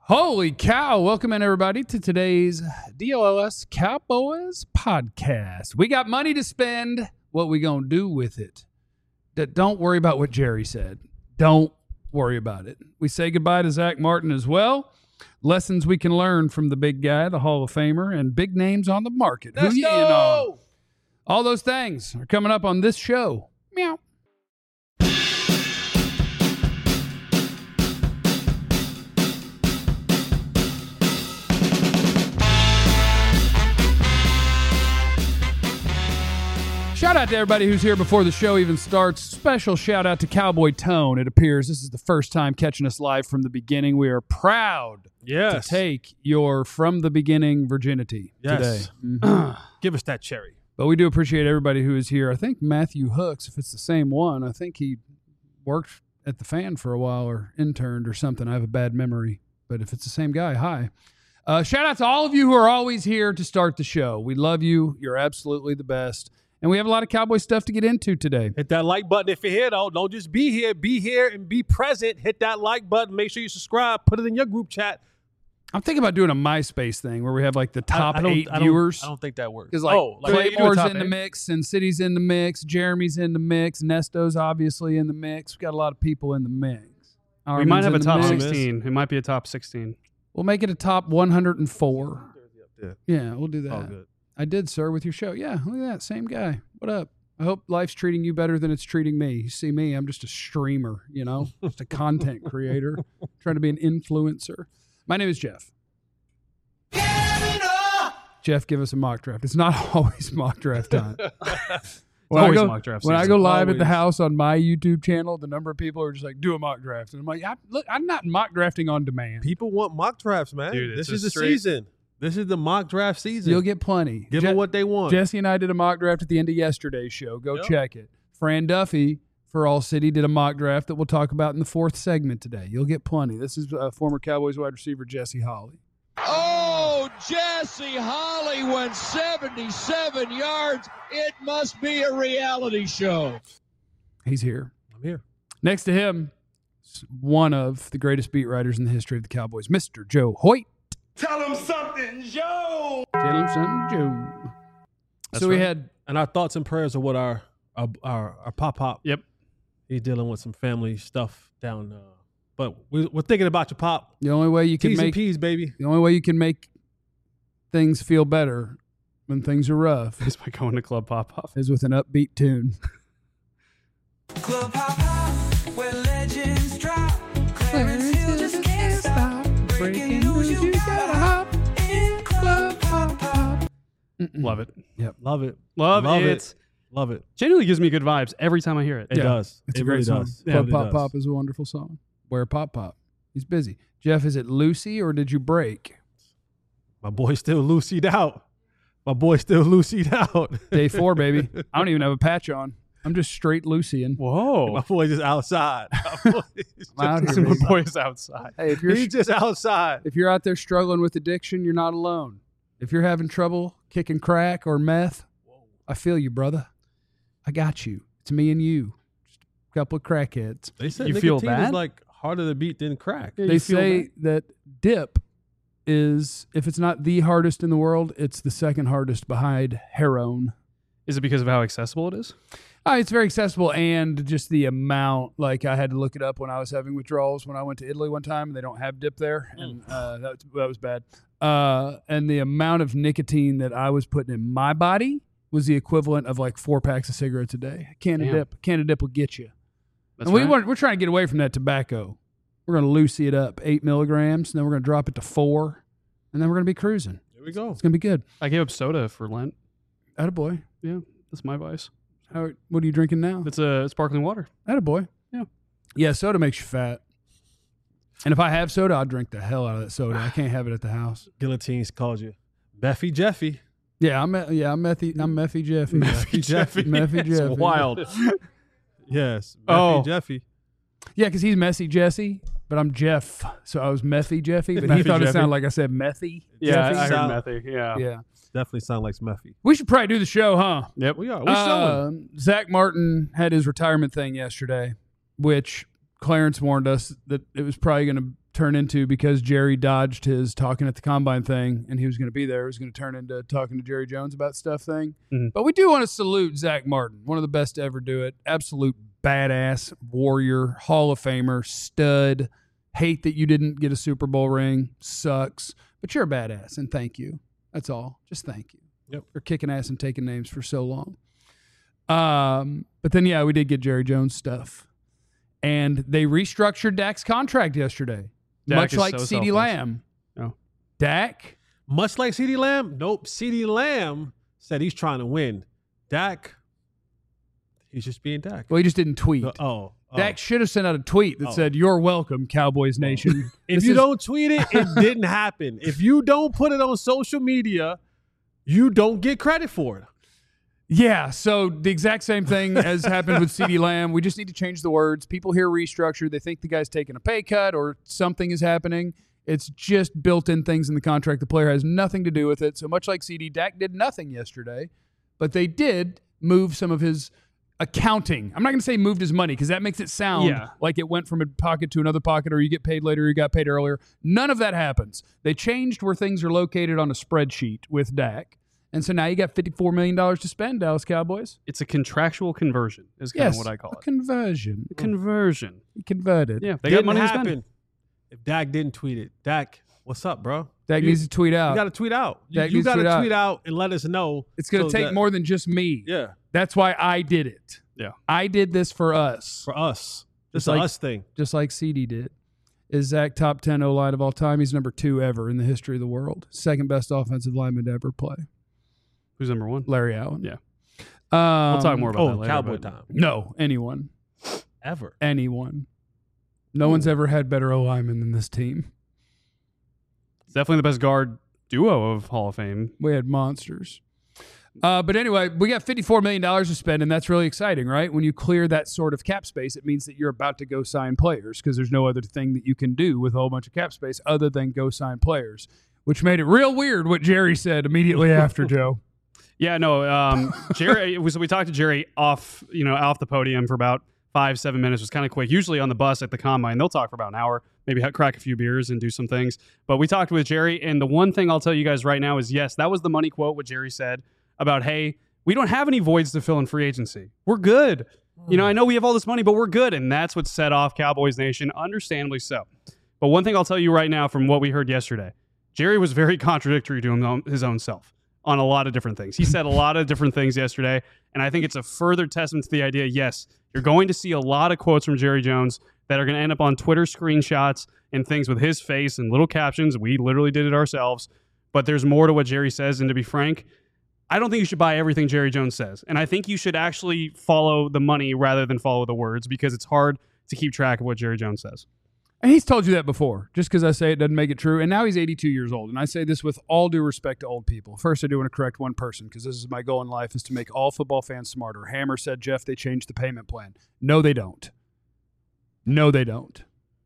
Holy cow. Welcome in, everybody, to today's DOLS Cowboys podcast. We got money to spend. What we going to do with it? Don't worry about what Jerry said. Don't worry about it. We say goodbye to Zach Martin as well. Lessons we can learn from the big guy, the Hall of Famer, and big names on the market. Let's Who you in go! on? All those things are coming up on this show. Meow. Shout out to everybody who's here before the show even starts. Special shout out to Cowboy Tone. It appears this is the first time catching us live from the beginning. We are proud to take your from the beginning virginity today. Mm-hmm. Give us that cherry. But we do appreciate everybody who is here. I think Matthew Hooks, if it's the same one, I think he worked at the Fan for a while or interned or something. I have a bad memory. But if it's the same guy, hi. Shout out to all of you who are always here to start the show. We love you. You're absolutely the best. And we have a lot of Cowboy stuff to get into today. Hit that like button if you're here, though. Don't just be here. Be here and be present. Hit that like button. Make sure you subscribe. Put it in your group chat. I'm thinking about doing a MySpace thing where we have like the top 8 viewers. I don't think that works. Because Claymore's in the mix, Sin City's in the mix, Jeremy's in the mix, Nesto's obviously in the mix. We've got a lot of people in the mix. We might have a top 16. It might be a top 16. We'll make it a top 104. Yeah, we'll do that. All good. I did, sir, with your show. Yeah, look at that. Same guy. What up? I hope life's treating you better than it's treating me. You see me, I'm just a streamer, just a content creator, trying to be an influencer. My name is Jeff. Jeff, give us a mock draft. It's not always mock draft time. When I go live at the house on my YouTube channel, the number of people are just like, do a mock draft. And I'm like, I'm not mock drafting on demand. People want mock drafts, man. Dude, this is the season. This is the mock draft season. You'll get plenty. Give them what they want. Jesse and I did a mock draft at the end of yesterday's show. Go check it. Fran Duffy for All City did a mock draft that we'll talk about in the fourth segment today. You'll get plenty. This is former Cowboys wide receiver Jesse Holley. Oh, Jesse Holley went 77 yards. It must be a reality show. He's here. I'm here. Next to him, one of the greatest beat writers in the history of the Cowboys, Mr. Joe Hoyt. Tell him something, Joe. Tell him something, Joe. That's we right. had, and our thoughts and prayers are with our pop. Yep. He's dealing with some family stuff down. But we're thinking about your pop. the only way you can T's and make P's, baby. the only way you can make things feel better when things are rough Is by going to Club Pop-Off. is with an upbeat tune. Club Pop Pop, where legends drop. Clarence Hill just can't stop. Breaking news, you gotta hop in Club Pop Pop. Love it. Love it. Love it. Love it. Genuinely gives me good vibes every time I hear it. It does. It's it a great really song. does. Club it Pop does. Pop is a wonderful song. Where Pop Pop? He's busy. Jeff, is it Lucy or did you break? My boy's still Lucy'd out. Day 4, baby. I don't even have a patch on. I'm just straight Lucian. Whoa. My boy's just outside. I'm out here, My baby. boy's outside. Hey, He's just outside. if you're out there struggling with addiction, you're not alone. If you're having trouble kicking crack or meth, I feel you, brother. I got you. It's me and you. Just a couple of crackheads. They said You feel nicotine bad? is like harder to beat than crack. Yeah, They you feel say that dip is, if it's not the hardest in the world, it's the second hardest behind heroin. Is it because of how accessible it is? It's very accessible, and just the amount. Like, I had to look it up when I was having withdrawals when I went to Italy one time, and they don't have dip there, and that was bad. And the amount of nicotine that I was putting in my body was the equivalent of like 4 packs of cigarettes a day. A can of dip will get you. That's And right. we're trying to get away from that tobacco. We're going to Lucy it up, 8 milligrams, and then we're going to drop it to 4, and then we're going to be cruising. There we go. It's going to be good. I gave up soda for Lent. Attaboy. Yeah, that's my vice. What are you drinking now? It's sparkling water. Attaboy. Yeah. Yeah, soda makes you fat. And if I have soda, I'll drink the hell out of that soda. I can't have it at the house. Guillotines calls you Beffy Jeffy. Yeah, I'm Meffy Jeffy. Meffy Jeffy. Meffy It's Jeffy. wild. Yes. Beffy Oh. Jeffy. Yeah, because he's Messy Jesse, but I'm Jeff. So I was Meffy Jeffy, but he Meffy thought it Jeffy. sounded like I said Methy. Yeah, Jeffy I heard sound- methy. Yeah. Yeah. Definitely sound like Smeffy. We should probably do the show, huh? Yep. We are. We're showing. Zach Martin had his retirement thing yesterday, which Clarence warned us that it was probably going to turn into, because Jerry dodged his talking at the combine thing and he was going to be there, it was going to turn into talking to Jerry Jones about stuff thing. Mm-hmm. But we do want to salute Zach Martin, one of the best to ever do it. Absolute badass warrior, Hall of Famer, stud. Hate that you didn't get a Super Bowl ring. Sucks. But you're a badass, and thank you. That's all. Just thank you for kicking ass and taking names for so long. But then, we did get Jerry Jones stuff. And they restructured Dak's contract yesterday. Dak much is like so CeeDee selfless. Lamb. Oh. Dak? Much like CeeDee Lamb? Nope. CeeDee Lamb said he's trying to win. Dak, he's just being Dak. Well, he just didn't tweet. Dak should have sent out a tweet that said, "You're welcome, Cowboys Nation." If you don't tweet it, it didn't happen. If you don't put it on social media, you don't get credit for it. Yeah, so the exact same thing as happened with CeeDee Lamb. We just need to change the words. People hear restructure, they think the guy's taking a pay cut or something is happening. It's just built-in things in the contract. The player has nothing to do with it. So much like CD, Dak did nothing yesterday, but they did move some of his accounting. I'm not going to say moved his money because that makes it sound like it went from a pocket to another pocket, or you get paid later, or you got paid earlier. None of that happens. They changed where things are located on a spreadsheet with Dak. And so now you got $54 million to spend, Dallas Cowboys. It's a contractual conversion is kind of what I call it. Conversion. Conversion. He converted. Yeah, they got money to spend. If Dak didn't tweet it. Dak, what's up, bro? Dak needs to tweet out. You got to tweet out. Dak You needs to got to tweet out and let us know. It's going to take more than just me. Yeah. That's why I did it. Yeah. I did this for us. For us. This Just is like- us thing. Just like CD did. Is Zach top 10 O-line of all time? He's number 2 ever in the history of the world. Second best offensive lineman to ever play. Who's number 1? Larry Allen. Yeah. We'll talk more about that later. Cowboy but- time. No, anyone. Ever. Anyone. No one's ever had better O-linemen than this team. It's definitely the best guard duo of Hall of Fame. We had monsters. But anyway, we got $54 million to spend, and that's really exciting, right? When you clear that sort of cap space, it means that you're about to go sign players because there's no other thing that you can do with a whole bunch of cap space other than go sign players, which made it real weird what Jerry said immediately after, Joe. Yeah, no. Jerry. We talked to Jerry off the podium for about 5-7 minutes. It was kind of quick. Usually on the bus at the combine, they'll talk for about an hour, maybe crack a few beers and do some things. But we talked with Jerry, and the one thing I'll tell you guys right now is yes, that was the money quote. What Jerry said about, hey, we don't have any voids to fill in free agency. We're good. I know we have all this money, but we're good, and that's what set off Cowboys Nation, understandably so. But one thing I'll tell you right now from what we heard yesterday, Jerry was very contradictory to his own self on a lot of different things. He said a lot of different things yesterday, and I think it's a further testament to the idea, yes, you're going to see a lot of quotes from Jerry Jones that are going to end up on Twitter screenshots and things with his face and little captions. We literally did it ourselves, but there's more to what Jerry says, and to be frank, I don't think you should buy everything Jerry Jones says, and I think you should actually follow the money rather than follow the words because it's hard to keep track of what Jerry Jones says. And he's told you that before. Just because I say it doesn't make it true. And now he's 82 years old. And I say this with all due respect to old people. First, I do want to correct one person because this is my goal in life is to make all football fans smarter. Hammer said, Jeff, they changed the payment plan. No, they don't. No, they don't.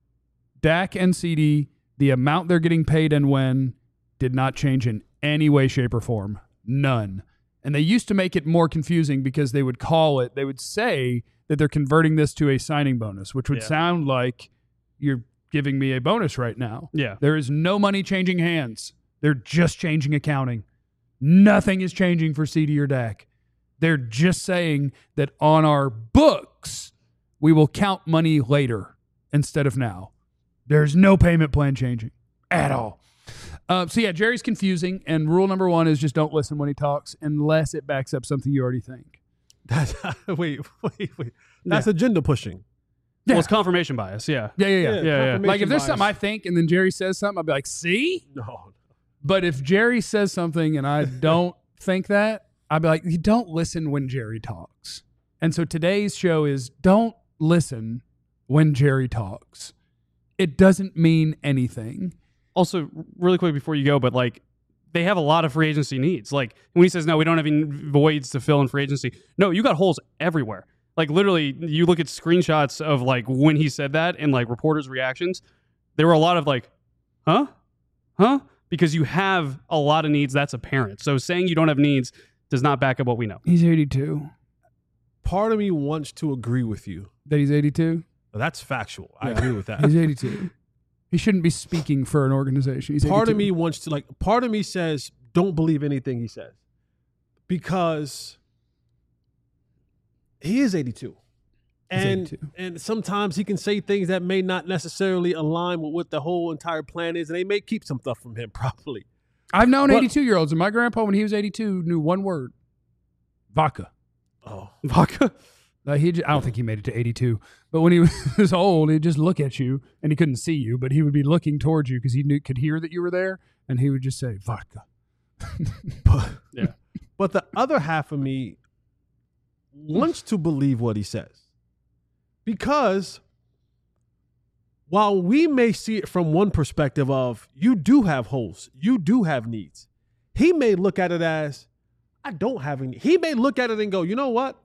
Dak and CD, the amount they're getting paid and when did not change in any way, shape, or form. None. And they used to make it more confusing because they would say that they're converting this to a signing bonus, which would sound like you're giving me a bonus right now. Yeah. There is no money changing hands. They're just changing accounting. Nothing is changing for CD or Dak. They're just saying that on our books, we will count money later instead of now. There's no payment plan changing at all. Jerry's confusing, and rule number 1 is just don't listen when he talks unless it backs up something you already think. Wait. That's agenda pushing. Yeah. Well, it's confirmation bias. Yeah. Yeah. Like if there's bias. something I think and then Jerry says something, I'll be like, see? No. But if Jerry says something and I don't think that, I'll be like, you don't listen when Jerry talks. And so today's show is don't listen when Jerry talks. It doesn't mean anything. Also, really quick before you go, but like they have a lot of free agency needs. Like when he says, no, we don't have any voids to fill in free agency. No, you got holes everywhere. Like literally, you look at screenshots of like when he said that and like reporters' reactions. There were a lot of like, huh? Because you have a lot of needs. That's apparent. So saying you don't have needs does not back up what we know. He's 82. Part of me wants to agree with you. That he's 82? That's factual. I agree with that. He's 82. He shouldn't be speaking for an organization. He's part 82. of me wants to part of me says don't believe anything he says because he is 82. And 82. and sometimes he can say things that may not necessarily align with what the whole entire plan is, and they may keep some stuff from him probably. I've known But- 82-year-olds, and my grandpa, when he was 82, knew one word: vodka. Oh. Vodka. I don't think he made it to 82, but when he was old, he'd just look at you, and he couldn't see you, but he would be looking towards you because he could hear that you were there, and he would just say vodka. But the other half of me wants to believe what he says. Because while we may see it from one perspective of you do have holes, you do have needs, he may look at it as I don't have any. He may look at it and go, you know what?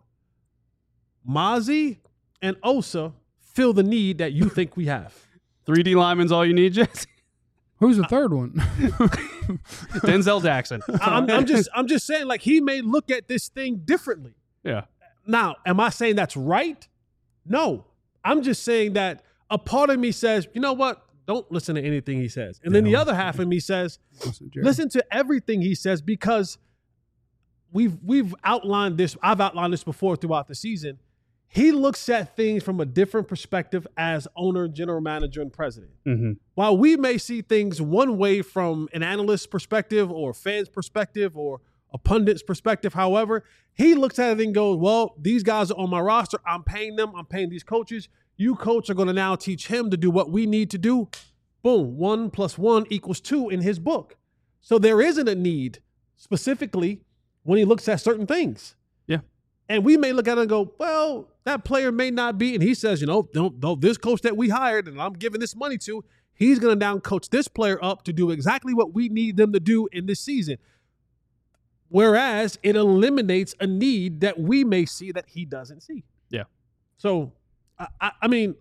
Mozzie and Osa fill the need that you think we have. 3D lineman's all you need, Jesse. Who's the third one? Denzel Jackson. I'm just saying, like, he may look at this thing differently. Yeah. Now, am I saying that's right? No. I'm just saying that a part of me says, you know what? Don't listen to anything he says. And then the other half of me says, listen to everything he says because we've outlined this. I've outlined this before throughout the season. He looks at things from a different perspective as owner, general manager, and president. Mm-hmm. While we may see things one way from an analyst's perspective or a fan's perspective or a pundit's perspective, however, he looks at it and goes, well, these guys are on my roster. I'm paying them. I'm paying these coaches. You, coach, are going to now teach him to do what we need to do. Boom, 1 + 1 = 2 in his book. So there isn't a need specifically when he looks at certain things. Yeah. And we may look at it and go, well, that player may not be. And he says, you know, don't this coach that we hired and I'm giving this money to, he's going to down coach this player up to do exactly what we need them to do in this season. Whereas it eliminates a need that we may see that he doesn't see. Yeah. So, I mean,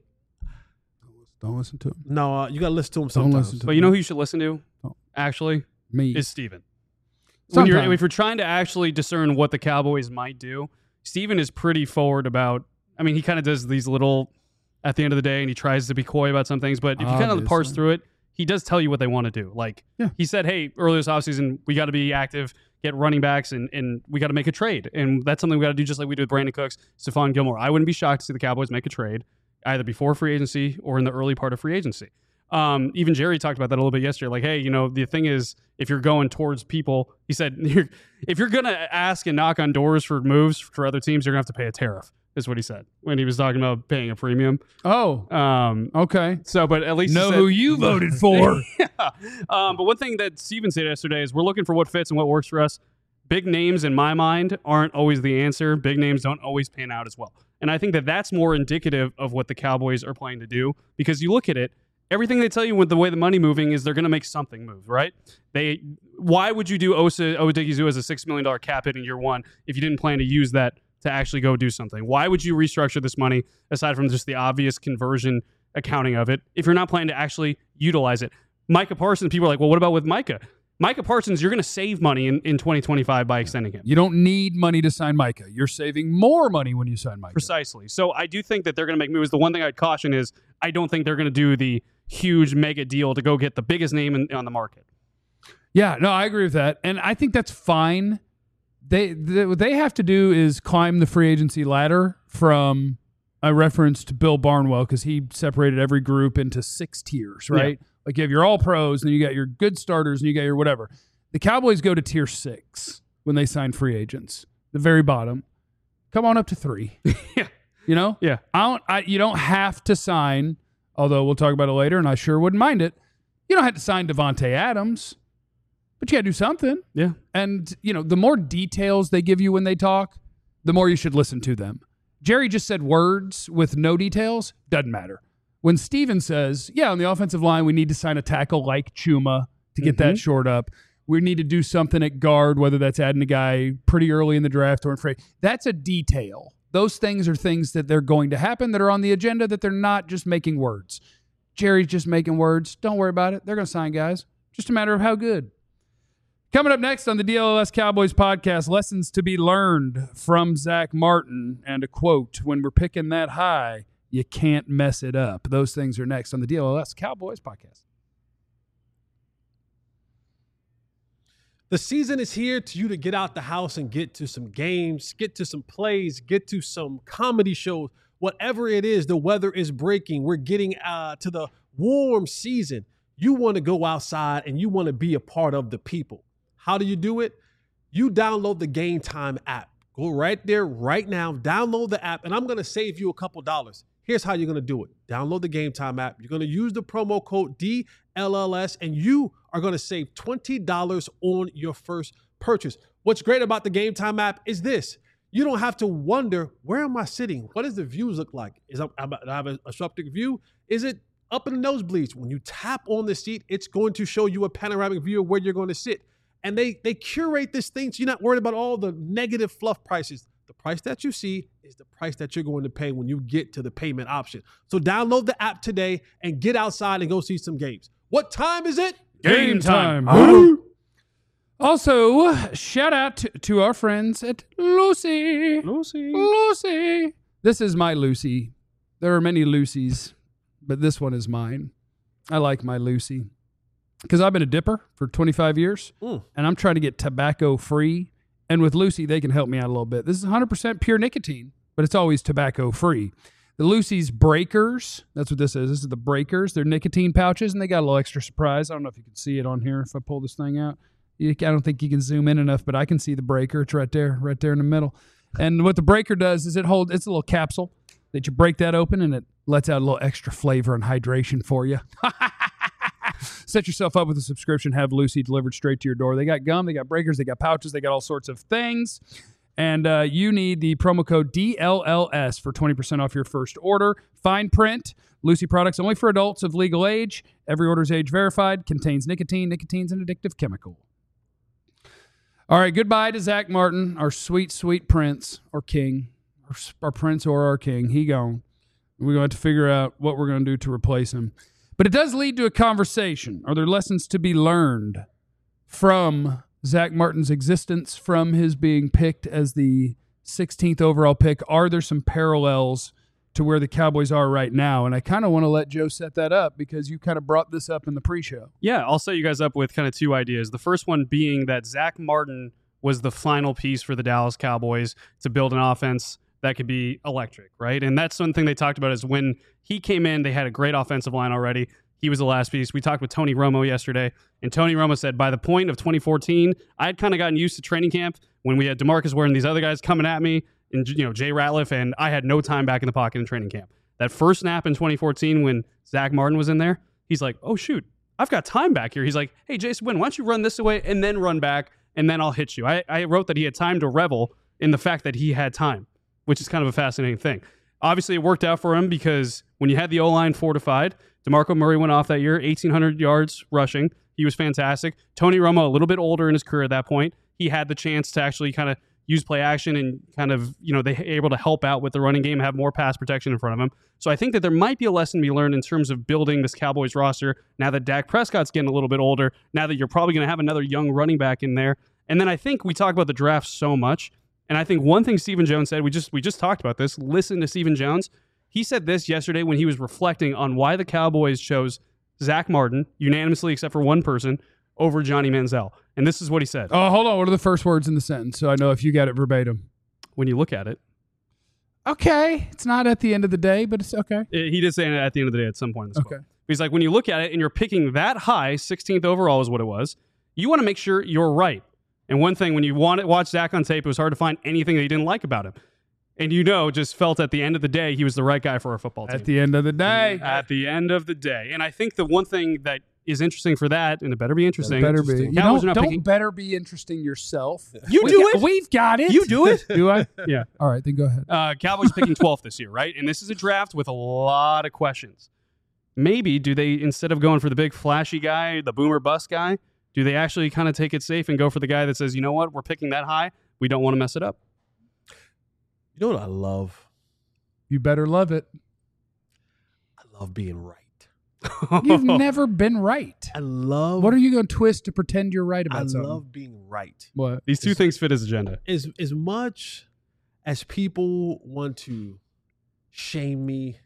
Don't listen to him. no, you got to listen to him Don't sometimes. listen to But you know who you should listen to, actually, me. is Steven. Sometimes. If you're trying to actually discern what the Cowboys might do, Steven is pretty forward about, I mean, he kind of does these little, at the end of the day, and he tries to be coy about some things, but if you kind of parse Obviously. through it, he does tell you what they want to do. Like, Yeah. he said, hey, earlier this offseason, we got to be active, get running backs, and we got to make a trade. And that's something we got to do just like we did with Brandon Cooks, Stephon Gilmore. I wouldn't be shocked to see the Cowboys make a trade either before free agency or in the early part of free agency. Even Jerry talked about that a little bit yesterday. Like, hey, you know, the thing is, if you're going towards people, he said, if you're going to ask and knock on doors for moves for other teams, you're going to have to pay a tariff, is what he said when he was talking about paying a premium. Oh, okay. So, but at least he Know said- who you voted for. yeah. But one thing that Steven said yesterday is we're looking for what fits and what works for us. Big names, in my mind, aren't always the answer. Big names don't always pan out as well. And I think that that's more indicative of what the Cowboys are planning to do because you look at it, everything they tell you with the way the money moving is they're going to make something move, right? Why would you do Odigizua as a $6 million cap hit in year one if you didn't plan to use that to actually go do something? Why would you restructure this money aside from just the obvious conversion accounting of it if you're not planning to actually utilize it? Micah Parsons, people are like, well, what about with Micah? Micah Parsons, you're going to save money in 2025 by extending him. You don't need money to sign Micah. You're saving more money when you sign Micah. Precisely. So I do think that they're going to make moves. The one thing I'd caution is I don't think they're going to do the huge mega deal to go get the biggest name on the market. Yeah, no, I agree with that. And I think that's fine. What they have to do is climb the free agency ladder from, I referenced Bill Barnwell because he separated every group into 6 tiers, right? Yeah. Like you have your all pros and then you got your good starters and you got your whatever. The Cowboys go to tier 6 when they sign free agents, the very bottom. Come on up to 3. Yeah. You know? Yeah. You don't have to sign, although we'll talk about it later and I sure wouldn't mind it. You don't have to sign Devontae Adams, but you got to do something. Yeah. And, you know, the more details they give you when they talk, the more you should listen to them. Jerry just said words with no details. Doesn't matter. When Steven says, yeah, on the offensive line, we need to sign a tackle like Chuma to get that short up. We need to do something at guard, whether that's adding a guy pretty early in the draft or in free. That's a detail. Those things are things that they're going to happen that are on the agenda that they're not just making words. Jerry's just making words. Don't worry about it. They're going to sign guys. Just a matter of how good. Coming up next on the DLLS Cowboys podcast, lessons to be learned from Zach Martin and a quote, when we're picking that high, You can't mess it up. Those things are next on the DLLS Cowboys podcast. The season is here to you to get out the house and get to some games, get to some plays, get to some comedy shows. Whatever it is, the weather is breaking. We're getting to the warm season. You want to go outside and you want to be a part of the people. How do you do it? You download the Game Time app. Go right there right now. Download the app, and I'm going to save you a couple dollars. Here's how you're going to do it. Download the Game Time app. You're going to use the promo code DLLS, and you are going to save $20 on your first purchase. What's great about the Game Time app is this. You don't have to wonder, where am I sitting? What does the views look like? Do I have a obstructive view? Is it up in the nosebleeds? When you tap on the seat, it's going to show you a panoramic view of where you're going to sit. And they curate this thing so you're not worried about all the negative fluff prices. The price that you see is the price that you're going to pay when you get to the payment option. So download the app today and get outside and go see some games. What time is it? Game time. Also, shout out to our friends at Lucy. Lucy. This is my Lucy. There are many Lucys, but this one is mine. I like my Lucy because I've been a dipper for 25 years, and I'm trying to get tobacco free. And with Lucy, they can help me out a little bit. This is 100% pure nicotine, but it's always tobacco free. The Lucy's Breakers, that's what this is. This is the Breakers. They're nicotine pouches, and they got a little extra surprise. I don't know if you can see it on here if I pull this thing out. I don't think you can zoom in enough, but I can see the Breaker. It's right there in the middle. And what the Breaker does is it's a little capsule that you break that open, and it lets out a little extra flavor and hydration for you. Set yourself up with a subscription. Have Lucy delivered straight to your door. They got gum, they got breakers, they got pouches, they got all sorts of things. And you need the promo code DLLS for 20% off your first order. Fine print. Lucy products only for adults of legal age. Every order is age verified. Contains nicotine. Nicotine's an addictive chemical. All right, goodbye to Zach Martin, our sweet, sweet prince or king. Our prince or our king. He gone. We're going to have to figure out what we're going to do to replace him. But it does lead to a conversation. Are there lessons to be learned from Zach Martin's existence, from his being picked as the 16th overall pick? Are there some parallels to where the Cowboys are right now? And I kind of want to let Joe set that up because you kind of brought this up in the pre-show. Yeah, I'll set you guys up with kind of two ideas. The first one being that Zach Martin was the final piece for the Dallas Cowboys to build an offense that could be electric, right? And that's one thing they talked about is when he came in, they had a great offensive line already. He was the last piece. We talked with Tony Romo yesterday, and Tony Romo said by the point of 2014, I had kind of gotten used to training camp when we had DeMarcus Ware and these other guys coming at me, and Jay Ratliff, and I had no time back in the pocket in training camp. That first snap in 2014 when Zach Martin was in there, he's like, oh, shoot, I've got time back here. He's like, hey, Jason Wynn, why don't you run this away and then run back, and then I'll hit you. I wrote that he had time to revel in the fact that he had time, which is kind of a fascinating thing. Obviously, it worked out for him because when you had the O-line fortified, DeMarco Murray went off that year, 1,800 yards rushing. He was fantastic. Tony Romo, a little bit older in his career at that point, he had the chance to actually kind of use play action and kind of, they were able to help out with the running game, have more pass protection in front of him. So I think that there might be a lesson to be learned in terms of building this Cowboys roster now that Dak Prescott's getting a little bit older, now that you're probably going to have another young running back in there. And then I think we talk about the draft so much, and I think one thing Stephen Jones said, we just talked about this, listen to Stephen Jones. He said this yesterday when he was reflecting on why the Cowboys chose Zach Martin, unanimously except for one person, over Johnny Manziel. And this is what he said. Oh, hold on. What are the first words in the sentence so I know if you got it verbatim? When you look at it. Okay. It's not at the end of the day, but it's okay. He did say it at the end of the day at some point in this Okay. quote. He's like, when you look at it and you're picking that high, 16th overall is what it was, you want to make sure you're right. And one thing, when you watch Zach on tape, it was hard to find anything that he didn't like about him. And just felt at the end of the day, he was the right guy for our football team. At the end of the day. At the end of the day. And I think the one thing that is interesting for that, and it better be interesting. Better be. You Cowboys are not don't picking- better be interesting yourself. You do it. We've got it. You do it. Do I? Yeah. All right, then go ahead. Cowboys picking 12th this year, right? And this is a draft with a lot of questions. Maybe do they, instead of going for the big flashy guy, the boomer bust guy, do they actually kind of take it safe and go for the guy that says, you know what, we're picking that high, we don't want to mess it up? You know what I love? You better love it. I love being right. You've never been right. I love. What are you going to twist to pretend you're right I about something? love being right. What? These two things fit his agenda. As much as people want to shame me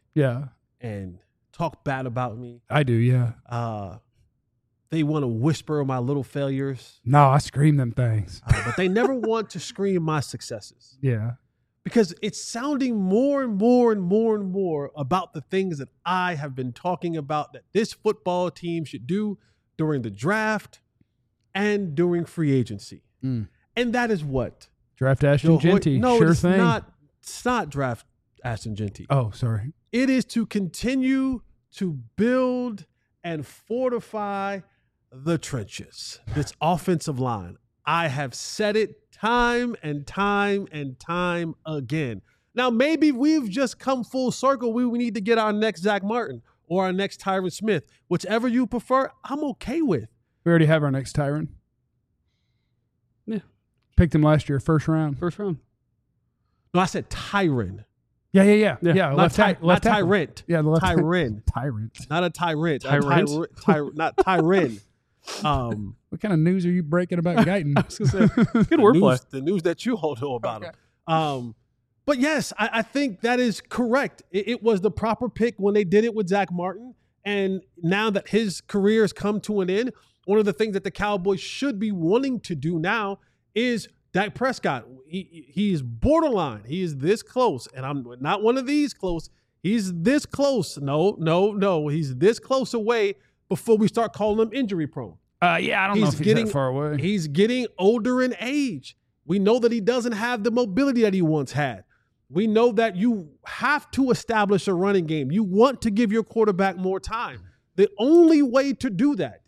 Yeah. and talk bad about me. I do, yeah. They want to whisper my little failures, No, I scream them things. but they never want to scream my successes. Yeah. Because it's sounding more and more and more and more about the things that I have been talking about that this football team should do during the draft and during free agency. Mm. And that is what? Draft Ashton Genty. No, sure it's thing. it's not draft Ashton Genty. Oh, sorry. It is to continue to build and fortify the trenches, this offensive line. I have said it time and time and time again. Now, maybe we've just come full circle. We need to get our next Zach Martin or our next Tyron Smith. Whichever you prefer, I'm okay with. We already have our next Tyron. Yeah. Picked him last year, first round. First round. No, I said Tyron. Yeah. Yeah. Not Left tackle. Tyrant. Yeah, the left Tyrant. Tyrant. Not a tyrant. Tyrant? Not Tyron. What kind of news are you breaking about Guyton? I was gonna say, good wordplay. The news that you all know about Okay. him. But yes, I think that is correct. It was the proper pick when they did it with Zach Martin. And now that his career has come to an end, one of the things that the Cowboys should be wanting to do now is Dak Prescott. He is borderline. He is this close. And I'm not one of these close. He's this close. No. He's this close away before we start calling him injury prone. Yeah, I don't know if he's that far away. He's getting older in age. We know that he doesn't have the mobility that he once had. We know that you have to establish a running game. You want to give your quarterback more time. The only way to do that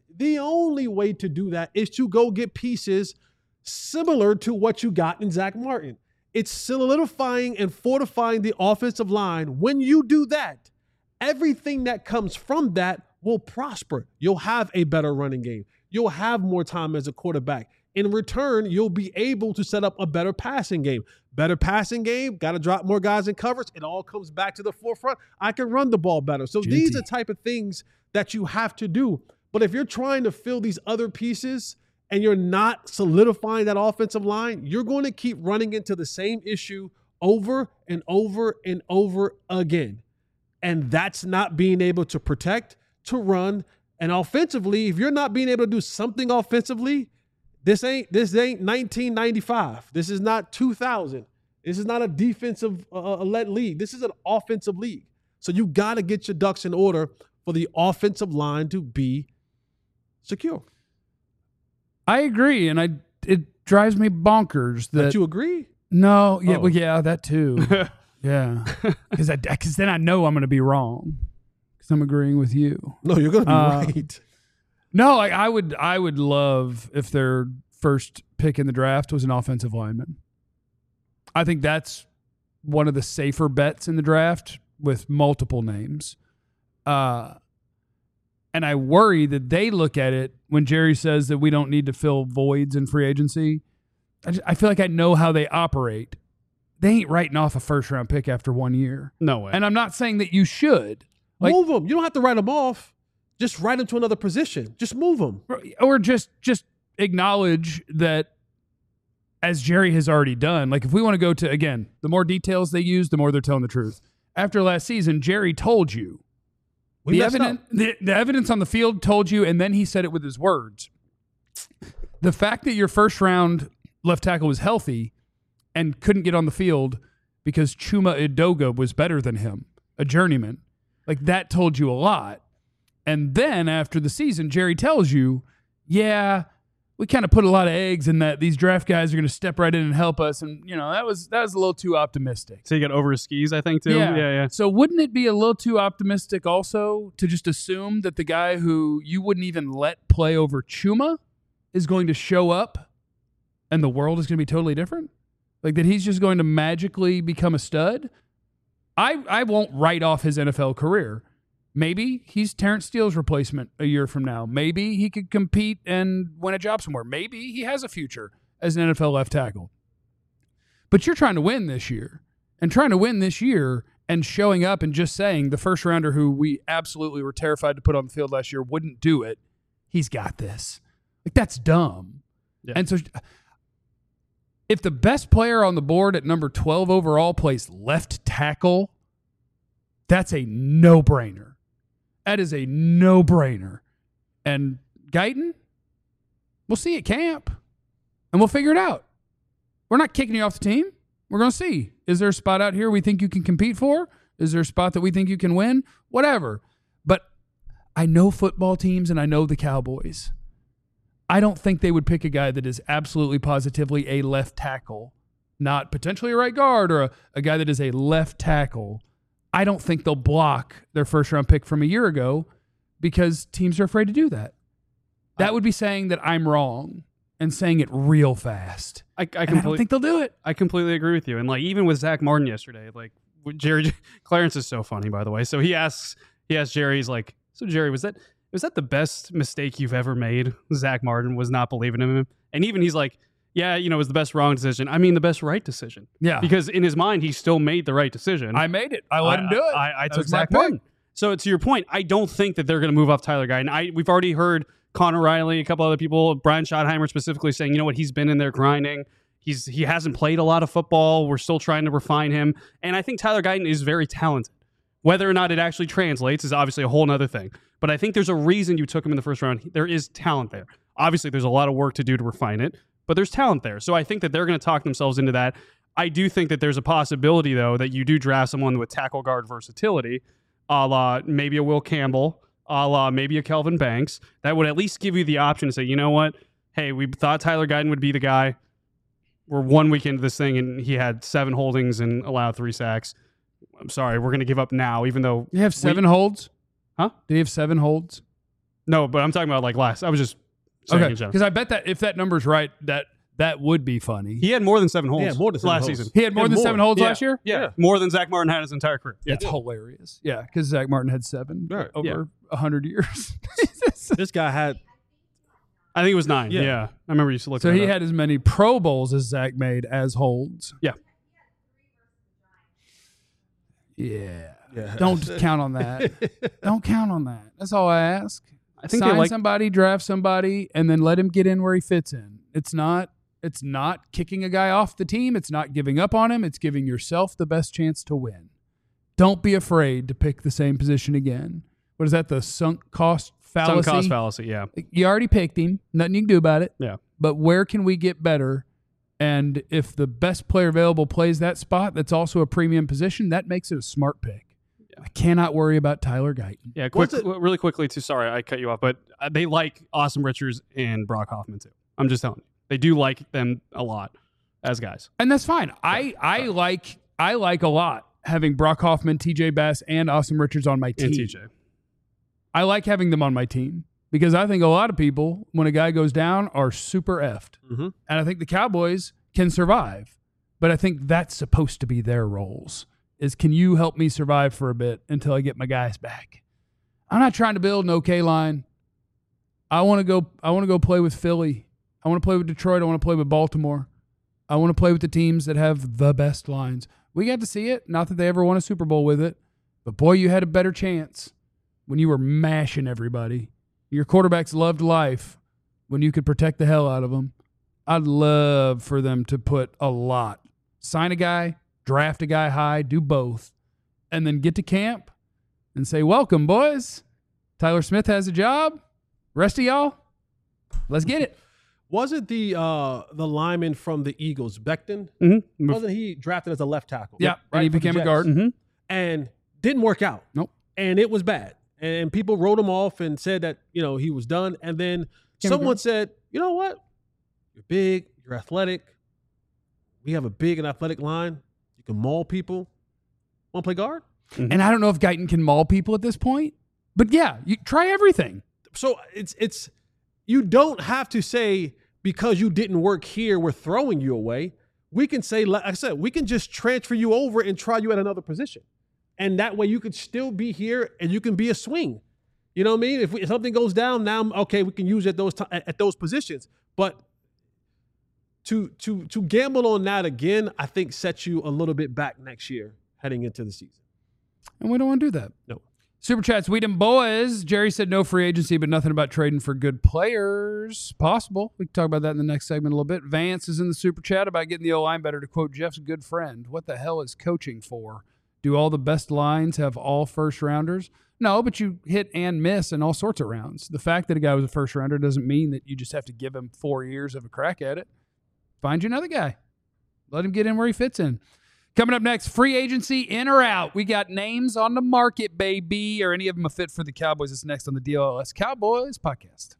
is to go get pieces similar to what you got in Zach Martin. It's solidifying and fortifying the offensive line. When you do that, everything that comes from that will prosper. You'll have a better running game. You'll have more time as a quarterback. In return, you'll be able to set up a better passing game. Better passing game, got to drop more guys in coverage. It all comes back to the forefront. I can run the ball better. So these are the type of things that you have to do. But if you're trying to fill these other pieces and you're not solidifying that offensive line, you're going to keep running into the same issue over and over and over again. And that's not being able to protect, to run. And offensively, if you're not being able to do something offensively, this ain't 1995. This is not 2000. This is not a defensive led league. This is an offensive league. So you got to get your ducks in order for the offensive line to be secure. I agree, and it drives me bonkers that Don't you agree? No, yeah, Oh. well, yeah, that too. Yeah, because then I know I'm going to be wrong because I'm agreeing with you. No, you're going to be right. No, I would love if their first pick in the draft was an offensive lineman. I think that's one of the safer bets in the draft with multiple names. And I worry that they look at it when Jerry says that we don't need to fill voids in free agency. I feel like I know how they operate. They ain't writing off a first-round pick after 1 year. No way. And I'm not saying that you should. Like, Move them. You don't have to write them off. Just write them to another position. Just move them. or just acknowledge that, as Jerry has already done, like if we want to go to, again, the more details they use, the more they're telling the truth. After last season, Jerry told you. The evidence on the field told you, and then he said it with his words. The fact that your first round left tackle was healthy and couldn't get on the field because Chuma Edoga was better than him, a journeyman, like that told you a lot. And then after the season, Jerry tells you, yeah, we kind of put a lot of eggs in that these draft guys are going to step right in and help us. And, that was a little too optimistic. So you got over his skis, I think, too. Yeah. So wouldn't it be a little too optimistic also to just assume that the guy who you wouldn't even let play over Chuma is going to show up and the world is going to be totally different? Like that he's just going to magically become a stud? I won't write off his NFL career. Maybe he's Terrence Steele's replacement a year from now. Maybe he could compete and win a job somewhere. Maybe he has a future as an NFL left tackle. But you're trying to win this year. And trying to win this year and showing up and just saying the first rounder who we absolutely were terrified to put on the field last year wouldn't do it. He's got this. Like, that's dumb. Yeah. And so if the best player on the board at number 12 overall plays left tackle, That's a no-brainer. That is a no-brainer. And Guyton, we'll see at camp, and we'll figure it out. We're not kicking you off the team. We're going to see. Is there a spot out here we think you can compete for? Is there a spot that we think you can win? Whatever. But I know football teams, and I know the Cowboys. I don't think they would pick a guy that is absolutely positively a left tackle, not potentially a right guard, or a guy that is a left tackle. I don't think they'll block their first-round pick from a year ago because teams are afraid to do that. That would be saying that I'm wrong and saying it real fast. I don't think they'll do it. I completely agree with you. And like even with Zach Martin yesterday, like Jerry Clarence is so funny, by the way. So he asked Jerry, he's like, so Jerry, was that the best mistake you've ever made? Zach Martin was not believing in him. And even he's like, yeah, it was the best wrong decision. I mean, the best right decision. Yeah. Because in his mind, he still made the right decision. I made it. I let him do it. I took Zach Martin. So to your point, I don't think that they're going to move off Tyler Guyton. We've already heard Connor Riley, a couple other people, Brian Schottenheimer specifically saying, you know what, he's been in there grinding. He hasn't played a lot of football. We're still trying to refine him. And I think Tyler Guyton is very talented. Whether or not it actually translates is obviously a whole nother thing. But I think there's a reason you took him in the first round. There is talent there. Obviously, there's a lot of work to do to refine it, but there's talent there. So I think that they're going to talk themselves into that. I do think that there's a possibility, though, that you do draft someone with tackle guard versatility, a la maybe a Will Campbell, a la maybe a Kelvin Banks, that would at least give you the option to say, you know what? Hey, we thought Tyler Guyton would be the guy. We're 1 week into this thing, and he had 7 holdings and allowed 3 sacks. I'm sorry, we're going to give up now, even though... You have 7 holds? Huh? Did he have 7 holds? No, but I'm talking about like last. I was just saying in general. Because I bet that if that number's right, that would be funny. He had more than 7 holds. Yeah, more than 7 last holds. season. He had more than 7 holds last year? Yeah, more than Zach Martin had his entire career. Yeah. That's hilarious. Yeah, because Zach Martin had 7 Right. over 100 years. This guy had... I think it was 9. Yeah. Yeah. I remember you used to look So at he had as many Pro Bowls as Zach made as holds. Yeah. Yeah. Yeah. Don't count on that. Don't count on that. That's all I ask. I think Sign they like somebody, draft somebody, and then let him get in where he fits in. It's not kicking a guy off the team. It's not giving up on him. It's giving yourself the best chance to win. Don't be afraid to pick the same position again. What is that? The sunk cost fallacy? Sunk cost fallacy, yeah. You already picked him. Nothing you can do about it. Yeah. But where can we get better? And if the best player available plays that spot, that's also a premium position, that makes it a smart pick. I cannot worry about Tyler Guyton. Yeah, really quickly too. Sorry, I cut you off, but they like Austin Richards and Brock Hoffman too. I'm just telling you, they do like them a lot as guys, and that's fine. I like a lot having Brock Hoffman, TJ Bass, and Austin Richards on my team. And TJ, I like having them on my team because I think a lot of people, when a guy goes down, are super effed, and I think the Cowboys can survive, but I think that's supposed to be their roles. Is can you help me survive for a bit until I get my guys back? I'm not trying to build an okay line. I want to go play with Philly. I want to play with Detroit. I want to play with Baltimore. I want to play with the teams that have the best lines. We got to see it. Not that they ever won a Super Bowl with it, but boy, you had a better chance when you were mashing everybody. Your quarterbacks loved life when you could protect the hell out of them. I'd love for them to put a lot. Sign a guy, draft a guy high, do both, and then get to camp and say, welcome, boys. Tyler Smith has a job. Rest of y'all, let's get it. Wasn't the lineman from the Eagles, Becton? Mm-hmm. Wasn't he drafted as a left tackle? Yeah, and he for the became a Jets? guard. Mm-hmm. And didn't work out. Nope. And it was bad. And people wrote him off and said that, he was done. And then someone said, you know what? You're big, you're athletic. We have a big and athletic line. You can maul people. Want to play guard? Mm-hmm. And I don't know if Guyton can maul people at this point, but yeah, you try everything. So it's you don't have to say because you didn't work here, we're throwing you away. We can say, like I said, we can just transfer you over and try you at another position. And that way you could still be here and you can be a swing. You know what I mean? If something goes down now, okay, we can use it at those positions. But to gamble on that again, I think sets you a little bit back next year heading into the season. And we don't want to do that. No. Super Chats, we them boys. Jerry said no free agency, but nothing about trading for good players. Possible. We can talk about that in the next segment a little bit. Vance is in the Super Chat about getting the O-line better, to quote Jeff's good friend. What the hell is coaching for? Do all the best lines have all first rounders? No, but you hit and miss in all sorts of rounds. The fact that a guy was a first rounder doesn't mean that you just have to give him 4 years of a crack at it. Find you another guy. Let him get in where he fits in. Coming up next, free agency in or out. We got names on the market, baby. Are any of them a fit for the Cowboys? It's next on the DLS Cowboys podcast.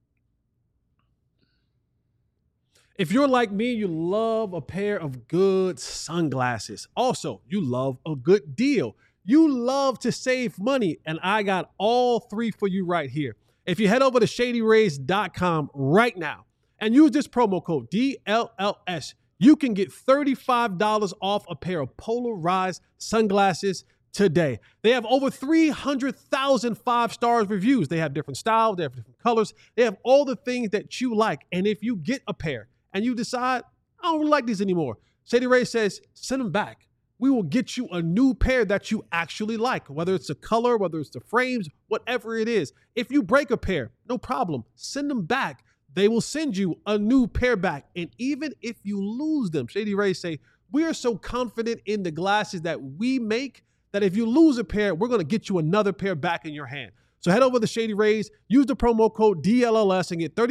If you're like me, you love a pair of good sunglasses. Also, you love a good deal. You love to save money, and I got all three for you right here. If you head over to ShadyRays.com right now and use this promo code DLLS, you can get $35 off a pair of polarized sunglasses today. They have over 300,000 five-star reviews. They have different styles. They have different colors. They have all the things that you like. And if you get a pair and you decide, I don't really like these anymore, Shady Rays says, send them back. We will get you a new pair that you actually like, whether it's the color, whether it's the frames, whatever it is. If you break a pair, no problem. Send them back. They will send you a new pair back. And even if you lose them, Shady Rays say, we are so confident in the glasses that we make that if you lose a pair, we're going to get you another pair back in your hand. So head over to Shady Rays, use the promo code DLLS and get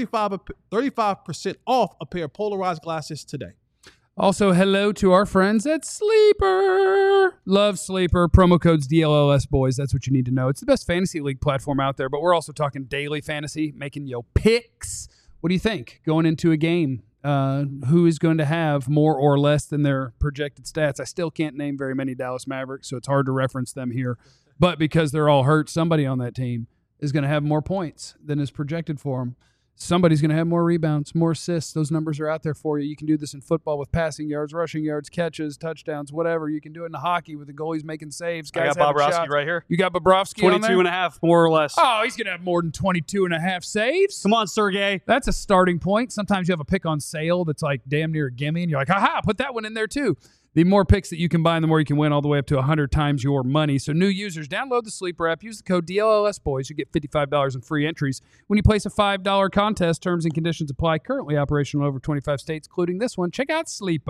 35% off a pair of polarized glasses today. Also, hello to our friends at Sleeper. Love Sleeper. Promo codes DLLS, boys. That's what you need to know. It's the best fantasy league platform out there, but we're also talking daily fantasy, making your picks. What do you think going into a game? Who is going to have more or less than their projected stats? I still can't name very many Dallas Mavericks, so it's hard to reference them here. But because they're all hurt, somebody on that team is going to have more points than is projected for them. Somebody's going to have more rebounds, more assists. Those numbers are out there for you. You can do this in football with passing yards, rushing yards, catches, touchdowns, whatever. You can do it in the hockey with the goalies making saves. Guys I got having Bobrovsky shots. right here. You got Bobrovsky on there? 22 and a half, more or less. Oh, he's going to have more than 22 and a half saves. Come on, Sergey. That's a starting point. Sometimes you have a pick on sale that's like damn near a gimme, and you're like, aha, put that one in there too. The more picks that you combine, the more you can win, all the way up to 100 times your money. So new users, download the Sleeper app. Use the code DLLS, boys. You get $55 in free entries when you place a $5 contest. Terms and conditions apply. Currently operational in over 25 states, including this one. Check out Sleeper.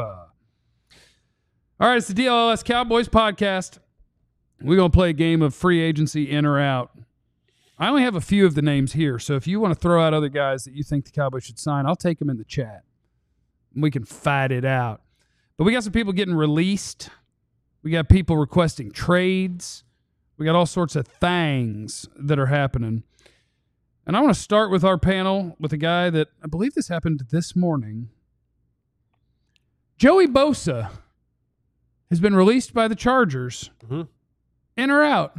All right, it's the DLLS Cowboys podcast. We're going to play a game of free agency in or out. I only have a few of the names here, so if you want to throw out other guys that you think the Cowboys should sign, I'll take them in the chat. We can fight it out. But we got some people getting released. We got people requesting trades. We got all sorts of things that are happening. And I want to start with our panel with a guy that I believe this happened this morning. Joey Bosa has been released by the Chargers. Mm-hmm. In or out?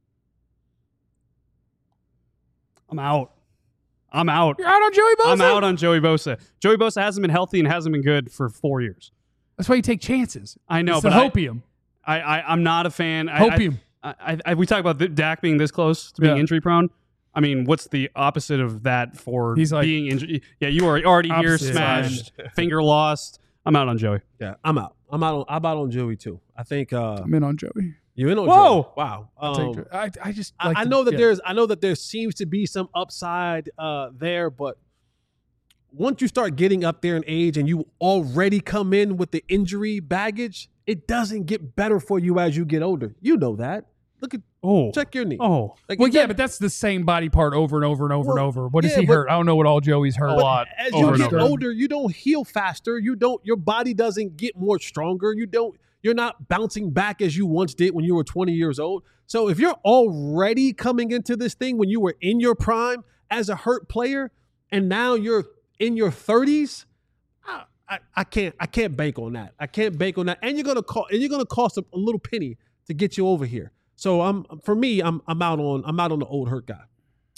I'm out. I'm out. You're out on Joey Bosa? I'm out on Joey Bosa. Joey Bosa hasn't been healthy and hasn't been good for 4 years. That's why you take chances. I know, it's but the hopium. I'm not a fan. Hopium. We talk about Dak being this close to being Yeah. injury prone. I mean, what's the opposite of that for He's like- being injured? Yeah, you are already here, Opposite smashed, finger lost. I'm out on Joey. Yeah, I'm out. I'm out on Joey too. I think I'm in on Joey. you're in on Whoa! Joey. Wow. I just like I to- know that yeah. I know that there seems to be some upside there, but once you start getting up there in age and you already come in with the injury baggage, it doesn't get better for you as you get older. You know that. Look at check your knee. Oh, Like, Well, it yeah, doesn't- but that's the same body part over and over and over and Well, over. What is yeah, he but- hurt? I don't know what all Joey's hurt. A lot. As over you and get over. older, you don't heal faster. Your body doesn't get more stronger. You're not bouncing back as you once did when you were 20 years old. So if you're already coming into this thing when you were in your prime as a hurt player, and now you're in your 30s, I can't bank on that. I can't bank on that. And you're gonna cost a little penny to get you over here. So I'm out on the old hurt guy,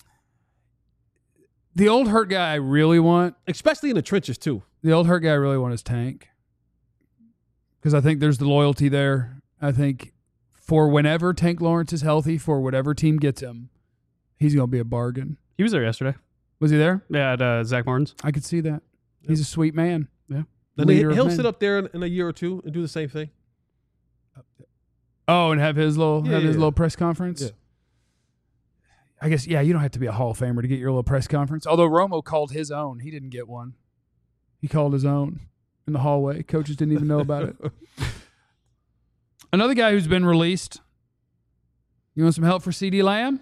The old hurt guy I really want, especially in the trenches too. the old hurt guy I really want is Tank. Because I think there's the loyalty there. I think for whenever Tank Lawrence is healthy, for whatever team gets him, he's going to be a bargain. he was there yesterday. Was he there? Yeah, at Zach Martin's. I could see that. He's a sweet man. Yeah. Then Leader of he'll men. sit up there in a year or two and do the same thing. Oh, and have his little press conference? Yeah. I guess, yeah, you don't have to be a Hall of Famer to get your little press conference. Although Romo called his own. He didn't get one. He called his own in the hallway. Coaches didn't even know about it. Another guy who's been released. You want some help for CeeDee Lamb?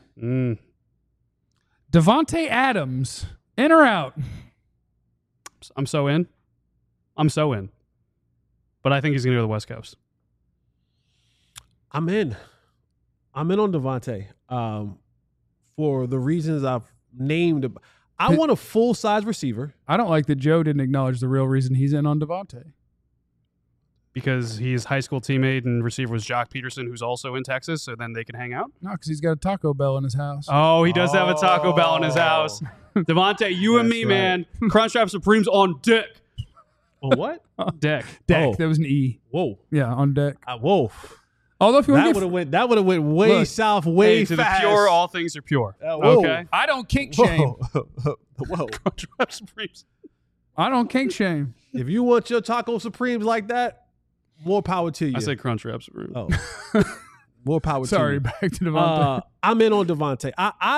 Devontae Adams, in or out? I'm so in. But I think he's going to go to the West Coast. I'm in on Devontae for the reasons I've named. I want a full-size receiver. I don't like that Joe didn't acknowledge the real reason he's in on Devontae. Because his high school teammate and receiver was Jock Peterson, who's also in Texas, so then they can hang out. No, because he's got a Taco Bell in his house. Oh, he does have a Taco Bell in his house. Devontae, you and me, man. Crunchwrap Supremes on deck. On what? Deck. Deck. Oh. That was an E. Whoa. Yeah, on deck. Whoa. Although if you want That would have went way Look, south, way to fast. the pure, all things are pure. Whoa. Okay. I don't kink shame. Whoa. Crunchwrap Supremes. I don't kink shame. If you want your Taco Supremes like that, more power to you. I said Crunchwrap Supremes. Oh. More power to Sorry, you. back to Devontae. I'm in on Devontae.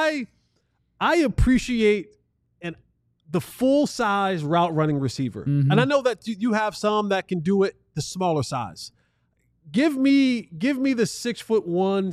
I appreciate the full size route running receiver, Mhm. and I know that you have some that can do it the smaller size. Give me the 6'1",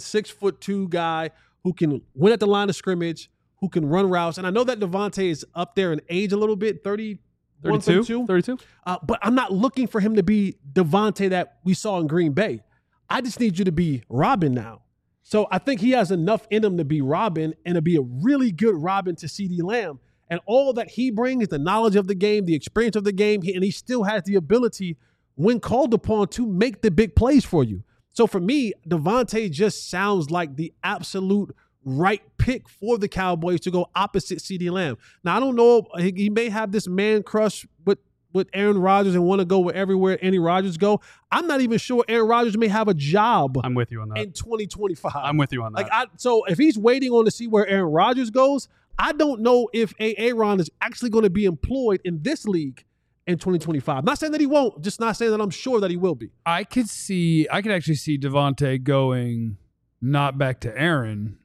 6'2" guy who can win at the line of scrimmage, who can run routes, and I know that Devontae is up there in age a little bit, 31, 32. 32? But I'm not looking for him to be Devontae that we saw in Green Bay. I just need you to be Robin now. So I think he has enough in him to be Robin and to be a really good Robin to CeeDee Lamb. And all that he brings, the knowledge of the game, the experience of the game, and he still has the ability, when called upon, to make the big plays for you. So for me, Devontae just sounds like the absolute right pick for the Cowboys to go opposite CeeDee Lamb. Now, I don't know. He may have this man crush with Aaron Rodgers and want to go wherever Aaron Rodgers go. I'm not even sure Aaron Rodgers may have a job I'm with you on that. in 2025. I'm with you on that. So if he's waiting on to see where Aaron Rodgers goes, I don't know if Aaron is actually going to be employed in this league in 2025. Not saying that he won't, just not saying that I'm sure that he will be. I could actually see Devontae going not back to Aaron,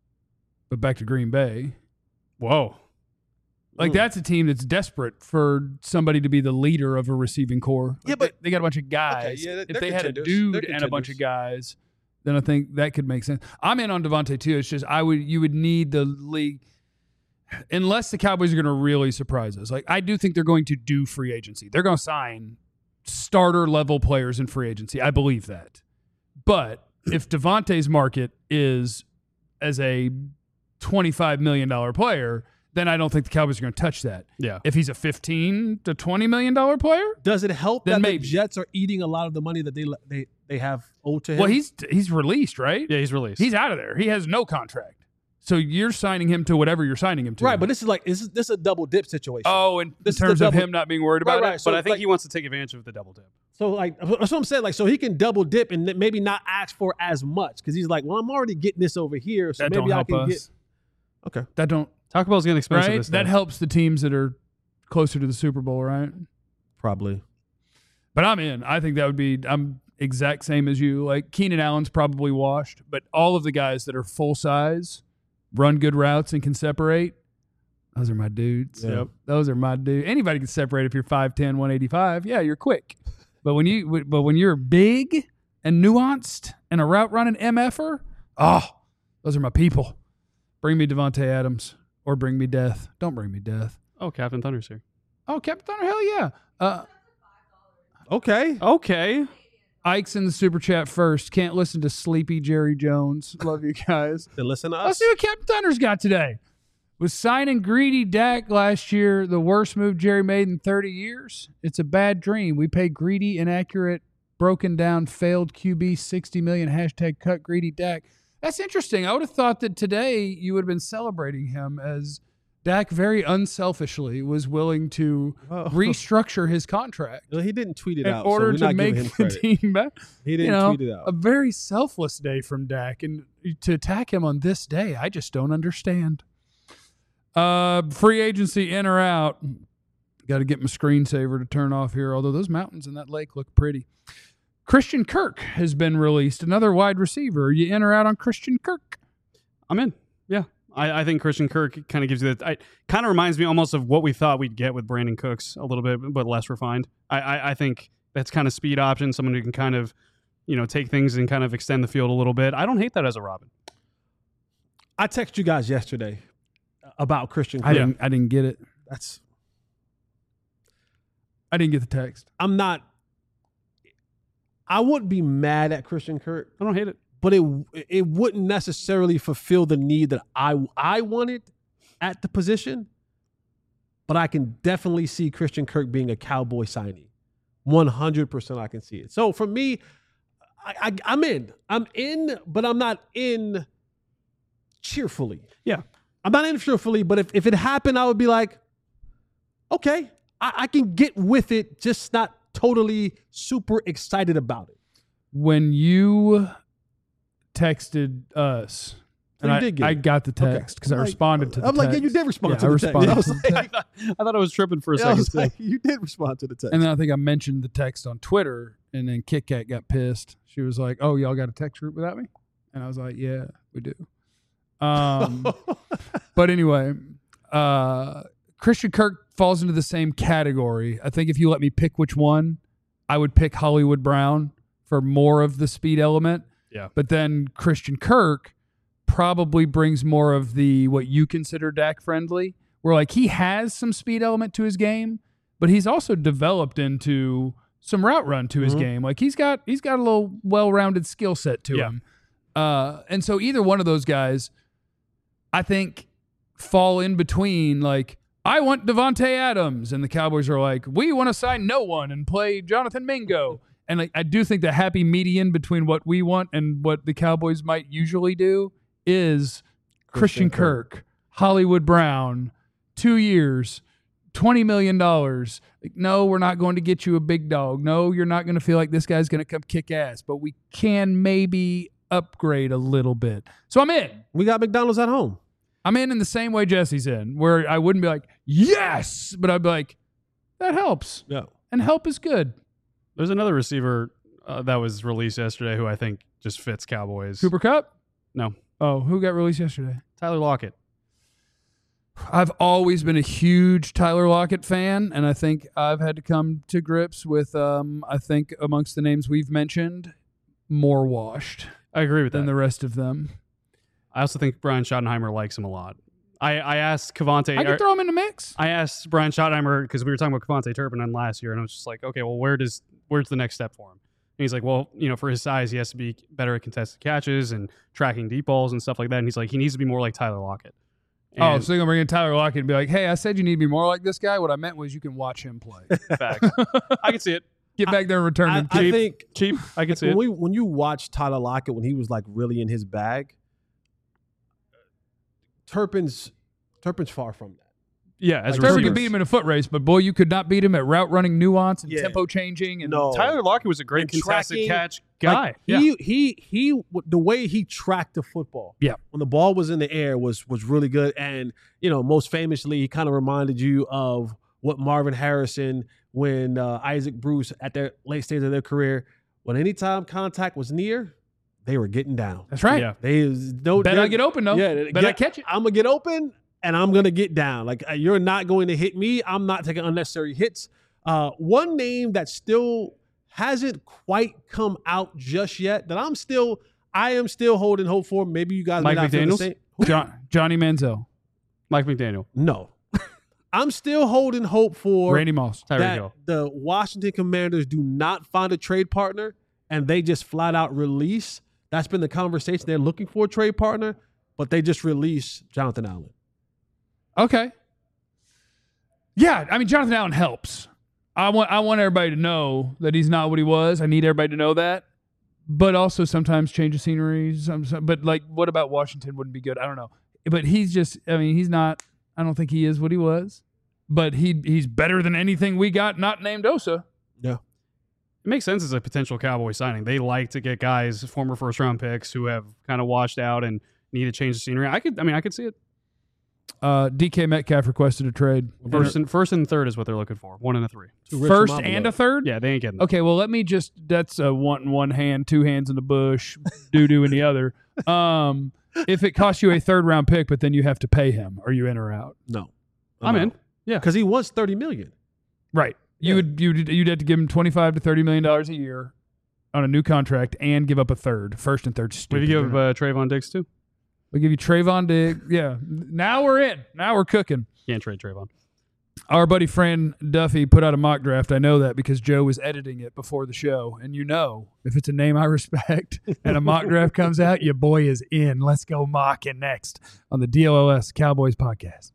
but back to Green Bay. Whoa. Like, that's a team that's desperate for somebody to be the leader of a receiving core. Yeah, Like, but- they got a bunch of guys. Okay, yeah, if they're they had a contenders. dude They're and a bunch of contenders. guys, then I think that could make sense. I'm in on Devontae too. It's just you would need the league, unless the Cowboys are going to really surprise us. Like, I do think they're going to do free agency. They're going to sign starter level players in free agency. I believe that. But if Devontae's market is as a $25 million player, then I don't think the Cowboys are going to touch that. Yeah. If he's a $15 to $20 million player, Does it help Then that maybe. the Jets are eating a lot of the money that they have owed to him? well, he's released, right? Yeah, he's released. He's out of there. He has no contract. So you're signing him to whatever you're signing him to. right, but this is a double dip situation. oh, in This is the terms of double- him not being worried about Right. it. So, but I think like- he wants to take advantage of the double dip. So like that's what I'm saying. Like, so he can double dip and maybe not ask for as much because he's like, well, I'm already getting this over here, so That maybe don't I help can us. get. Okay. That don't Taco Bell's getting expensive right. this That day. helps the teams that are closer to the Super Bowl, right? Probably. But I'm in. I think that would be. I'm exact same as you. Like, Keenan Allen's probably washed, but all of the guys that are full size, run good routes, and can separate, those are my dudes. Yeah. Yep. Those are my dudes. Anybody can separate if you're 5'10", 185. Yeah, you're quick. But when you're big and nuanced and a route running MFer, those are my people. Bring me Devontae Adams or bring me death. Don't bring me death. Oh, Captain Thunder's here. Oh, Captain Thunder, hell yeah. Okay. Okay. Ike's in the super chat first. Can't listen to sleepy Jerry Jones. Love you guys. Then listen to Let's us. see what Captain Thunder's got today. Was signing greedy Dak last year the worst move Jerry made in 30 years? It's a bad dream. We pay greedy, inaccurate, broken down, failed QB $60 million, hashtag cut greedy Dak. That's interesting. I would have thought that today you would have been celebrating him as Dak very unselfishly was willing to restructure his contract Well, he didn't tweet it in out, order so we're to not make giving him the credit. team back. He didn't tweet it out. A very selfless day from Dak, and to attack him on this day, I just don't understand. Free agency in or out? Got to get my screensaver to turn off here. Although those mountains in that lake look pretty. Christian Kirk has been released. Another wide receiver. Are you in or out on Christian Kirk? I'm in. Yeah. I think Christian Kirk kind of gives you that. Kind of reminds me almost of what we thought we'd get with Brandon Cooks, a little bit, but less refined. I think that's kind of speed option, someone who can kind of take things and kind of extend the field a little bit. I don't hate that as a Robin. I texted you guys yesterday about Christian Kirk. I didn't get it. That's I didn't get the text. I wouldn't be mad at Christian Kirk, I don't hate it. but it wouldn't necessarily fulfill the need that I wanted at the position. But I can definitely see Christian Kirk being a Cowboy signee. 100% I can see it. So for me, I'm in. I'm in, but I'm not in cheerfully. Yeah. I'm not in cheerfully, but if it happened, I would be like, okay, I can get with it, just not totally super excited about it. When you texted us, So you did get I it. got the text because I responded to the I'm text. like, yeah, you did respond Yeah, to I the text. responded I was to like, the text. I thought I was tripping for a I second. was like, you did respond to the text. And then I think I mentioned the text on Twitter, and then Kit Kat got pissed. She was like, "Oh, y'all got a text group without me?" And I was like, "Yeah, we do." But anyway, Christian Kirk falls into the same category. I think if you let me pick which one, I would pick Hollywood Brown for more of the speed element. Yeah. But then Christian Kirk probably brings more of the what you consider Dak friendly, where like he has some speed element to his game, but he's also developed into some route run to his game. Like he's got a little well-rounded skill set to him. And so either one of those guys, I think, fall in between like, I want Devontae Adams, and the Cowboys are like, we want to sign no one and play Jonathan Mingo. And like, I do think the happy median between what we want and what the Cowboys might usually do is Christian Kirk, Hollywood Brown, 2 years, $20 million. Like, no, we're not going to get you a big dog. No, you're not going to feel like this guy's going to come kick ass, but we can maybe upgrade a little bit. So I'm in. We got McDonald's at home. I'm in the same way Jesse's in, where I wouldn't be like, yes, but I'd be like, that helps. Yeah. And help is good. There's another receiver that was released yesterday who I think just fits Cowboys. Cooper Kupp? No. Oh, who got released yesterday? Tyler Lockett. I've always been a huge Tyler Lockett fan, and I think I've had to come to grips with, I think amongst the names we've mentioned, more washed I agree with than that. the rest of them. I also think Brian Schottenheimer likes him a lot. I asked Cavante. I could throw him in the mix. I asked Brian Schottenheimer because we were talking about Cavante Turpin on last year, and I was just like, okay, well, where's the next step for him? And he's like, well, for his size, he has to be better at contested catches and tracking deep balls and stuff like that. And he's like, he needs to be more like Tyler Lockett. And So you're going to bring in Tyler Lockett and be like, hey, I said you need to be more like this guy. What I meant was you can watch him play. facts. I can see it. Get back there and return him. I think Cheap. I can see it. when you watch Tyler Lockett when he was like really in his bag, Turpin's far from that. Yeah, as Like, Trevor receivers. could beat him in a foot race, but boy, you could not beat him at route running nuance and Yeah. tempo changing. And No. Tyler Lockett was a great And contested tracking, catch guy. Like, he the way he tracked the football. Yeah. When the ball was in the air was really good. And, most famously, he kind of reminded you of what Marvin Harrison, when Isaac Bruce at their late stage of their career, when anytime contact was near, they were getting down. That's right. Yeah. Bet I get open, though. Yeah, Bet I catch it. I'm gonna get open and I'm gonna get down. Like you're not going to hit me. I'm not taking unnecessary hits. One name that still hasn't quite come out just yet that I am still holding hope for. Maybe you guys Mike may not feel the McDaniels? same. Johnny Manziel, Mike McDaniel, No, I'm still holding hope for Randy Moss. Tyreek that Hill. the Washington Commanders do not find a trade partner and they just flat out release. That's been the conversation. They're looking for a trade partner, but they just release Jonathan Allen. Okay. Yeah, I mean Jonathan Allen helps. I want everybody to know that he's not what he was. I need everybody to know that. But also sometimes change of scenery. But like, what about Washington wouldn't be good? I don't know. But he's just. I mean, he's not. I don't think he is what he was. But he's better than anything we got not named Osa. Yeah. It makes sense as a potential Cowboy signing. They like to get guys, former first-round picks, who have kind of washed out and need to change the scenery. I could see it. DK Metcalf requested a trade. First and third is what they're looking for. 1 and a 3. First and a third? Yeah, they ain't getting. Okay, well, let me just. That's one hand, two hands in the bush, doo-doo in the other. If it costs you a third-round pick, but then you have to pay him, are you in or out? No, I'm in. Yeah, because he wants $30 million. Right. You'd have to give him $25 to $30 million a year, on a new contract and give up a third. First and third. What do you give Trayvon Diggs too? We give you Trayvon Diggs. Yeah. Now we're in. Now we're cooking. Can't trade Trayvon. Our buddy friend Duffy put out a mock draft. I know that because Joe was editing it before the show. And if it's a name I respect and a mock draft comes out, your boy is in. Let's go mocking next on the DLLS Cowboys podcast.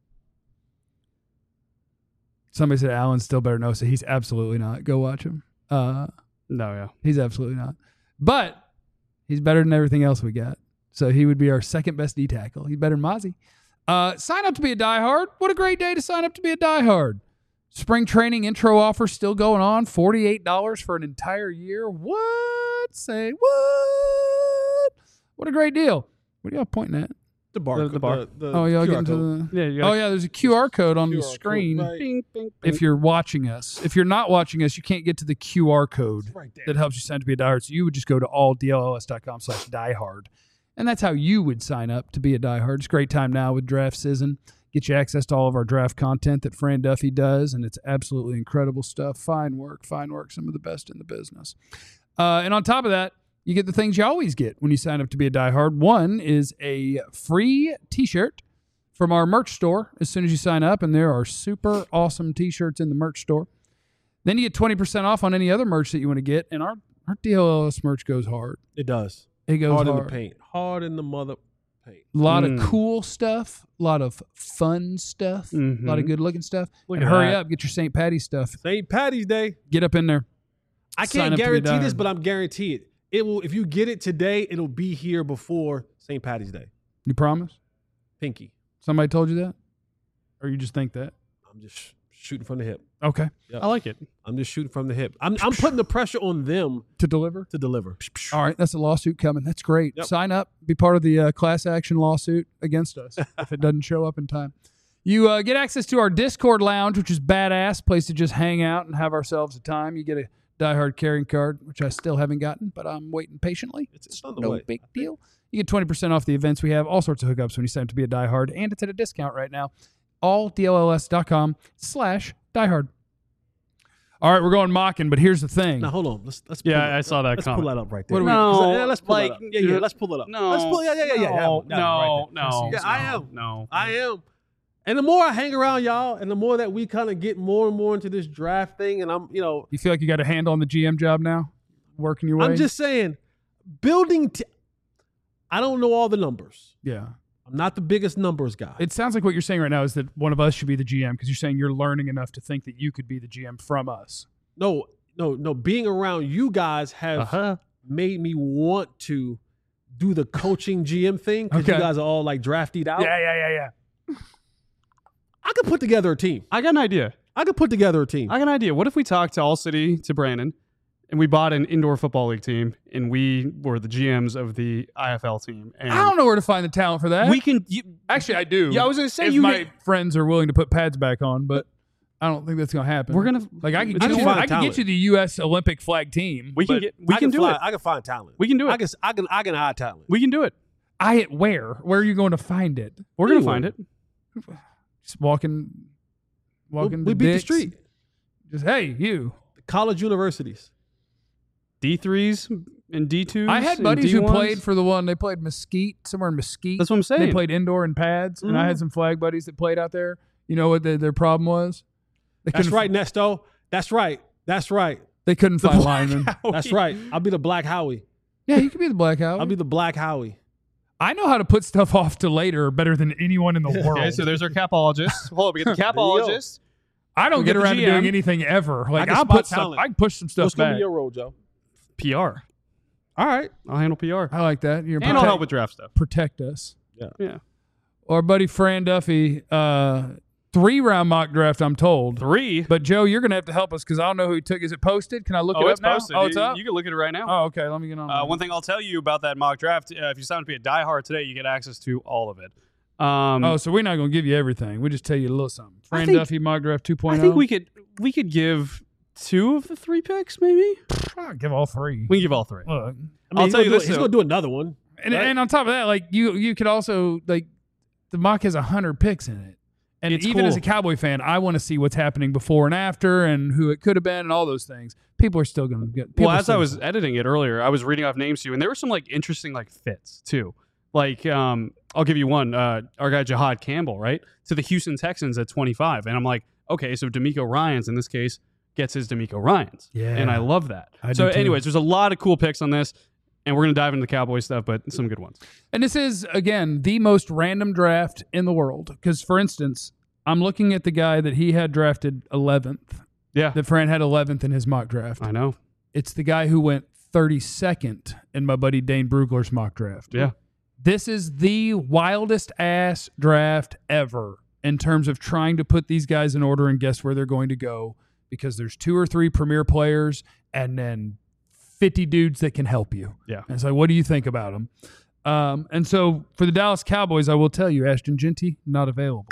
Somebody said Allen's still better. No, so he's absolutely not. Go watch him. No, yeah. He's absolutely not. But he's better than everything else we got. So he would be our second best D tackle. He's better than Mozzie. Sign up to be a diehard. What a great day to sign up to be a diehard. Spring training intro offer still going on. $48 for an entire year. What? Say what? What a great deal. What are y'all pointing at? The bar. The bar. Oh, y'all QR getting to code. the... Yeah, you Oh, yeah, there's a QR code on the QR code, screen. right. Bing, bing, bing. If you're watching us. If you're not watching us, you can't get to the QR code Right there. that helps you sign up to be a diehard. So you would just go to alldlls.com/diehard. And that's how you would sign up to be a diehard. It's a great time now with draft season. Get you access to all of our draft content that Fran Duffy does, and it's absolutely incredible stuff. Fine work, some of the best in the business. And on top of that, you get the things you always get when you sign up to be a diehard. One is a free T-shirt from our merch store as soon as you sign up, and there are super awesome T-shirts in the merch store. Then you get 20% off on any other merch that you want to get, and our DLLS merch goes hard. It does. It goes hard. Hard in the paint. Hard in the mother paint. A lot of cool stuff, a lot of fun stuff, a lot of good-looking stuff. Look And at hurry that. up, get your St. Patty's stuff. St. Patty's Day. Get up in there. I Sign can't up to be guarantee this, diehard. but I'm guaranteed it will. If you get it today, it'll be here before St. Patty's Day. You promise? Pinky. Somebody told you that? Or you just think that? I'm just shooting from the hip. Okay. I like it. I'm just shooting from the hip. I'm putting the pressure on them To deliver? to deliver. All right, that's a lawsuit coming. That's great. Yep. Sign up, be part of the class action lawsuit against us if it doesn't show up in time. You get access to our Discord lounge, which is badass, place to just hang out and have ourselves a time. You get a diehard carrying card, which I still haven't gotten, but I'm waiting patiently. It's on the No way. big deal. You get 20% off the events we have, all sorts of hookups when you sign up to be a diehard, and it's at a discount right now. alldlls.com/diehard. All right, we're going mocking, but here's the thing. Now hold on. Let's pull Yeah, it- I saw that Let's comment. pull that up right there. What do we- Yeah, let's pull like, that up. Yeah, let's pull it up. No. Let's pull. Yeah. No, Right there. no. Yeah, I am. No. I am. And the more I hang around y'all, and the more that we kind of get more and more into this draft thing, and I'm, You feel like you got a handle on the GM job now? Working your way? I'm just saying, building. I don't know all the numbers. Yeah. I'm not the biggest numbers guy. It sounds like what you're saying right now is that one of us should be the GM because you're saying you're learning enough to think that you could be the GM from us. No. Being around you guys have made me want to do the coaching GM thing because you Okay. guys are all like drafted out. Yeah. I could put together a team. I got an idea. I could put together a team. I got an idea. What if we talked to All City, to Brandon, and we bought an indoor football league team, and we were the GMs of the IFL team? And I don't know where to find the talent for that. We can. Actually, I do. Yeah, I was gonna say if you my get- friends are willing to put pads back on, but I don't think that's going to happen. We're gonna like I can I get can you. find I can talent. get you the U.S. Olympic flag team. We can but get. We can do find, it. I can find talent. We can do it. I can hide talent. We can do it. Where? Where are you going to find it? We're gonna Anywhere. find it. Just walking We the beat the dicks. street. Just hey, you. College universities. D3s and D2s. I had and buddies who D1s. played for the one. They played Mesquite, somewhere in Mesquite. That's what I'm saying. They played indoor in pads, and I had some flag buddies that played out there. You know what their problem was? They That's couldn't- right, Nesto. That's right. They couldn't find linemen. That's right. I'll be the Black Howie. Yeah, you could be the Black Howie. I'll be the Black Howie. I know how to put stuff off to later better than anyone in the world. Okay, so there's our capologist. Hold up, we get the capologist. I don't we get get the around to doing GM. anything ever. Like can I'll spot put stuff. talent. I can push some stuff What's going to back. be your role, Joe? PR. All right. I'll handle PR. I like that. You're And I'll help with draft stuff. protect us. Yeah. Our buddy Fran Duffy, 3-round mock draft. I'm told. 3. But Joe, you're gonna have to help us because I don't know who he took. Is it posted? Can I look it Oh, up it's now? posted. Oh, it's You- up. You can look at it right now. Oh, okay. Let me get on. One thing I'll tell you about that mock draft: if you sign up to be a diehard today, you get access to all of it. Oh, so we're not gonna give you everything. We just tell you a little something. Fran think- Duffy mock draft 2.0. I think we could give 2 of the 3 picks, maybe. I'll give all 3. We can give all 3. Look. I mean, I'll tell you this, He's though. going to do another one. And, Right. and on top of that, like you could also like the mock has 100 picks in it, And It's even cool. as a Cowboy fan, I want to see what's happening before and after and who it could have been and all those things. People are still going to get. Well, as I was editing it earlier, I was reading off names to you, and there were some like interesting like fits too. Like, I'll give you one. Our guy Jahad Campbell, right, to the Houston Texans at 25, and I'm like, okay, so D'Amico Ryans in this case gets his D'Amico Ryans, Yeah. and I love that. I So, do too. anyways, there's a lot of cool picks on this, and we're gonna dive into the Cowboy stuff, but some good ones. And this is, again, the most random draft in the world. Because, for instance, I'm looking at the guy that he had drafted 11th, Yeah, that Fran had 11th in his mock draft. I know. It's the guy who went 32nd in my buddy Dane Brugler's mock draft. Yeah. This is the wildest ass draft ever in terms of trying to put these guys in order and guess where they're going to go, because there's 2 or 3 premier players and then 50 dudes that can help you. Yeah. And it's like, what do you think about them? And so for the Dallas Cowboys, I will tell you, Ashton Genty, not available.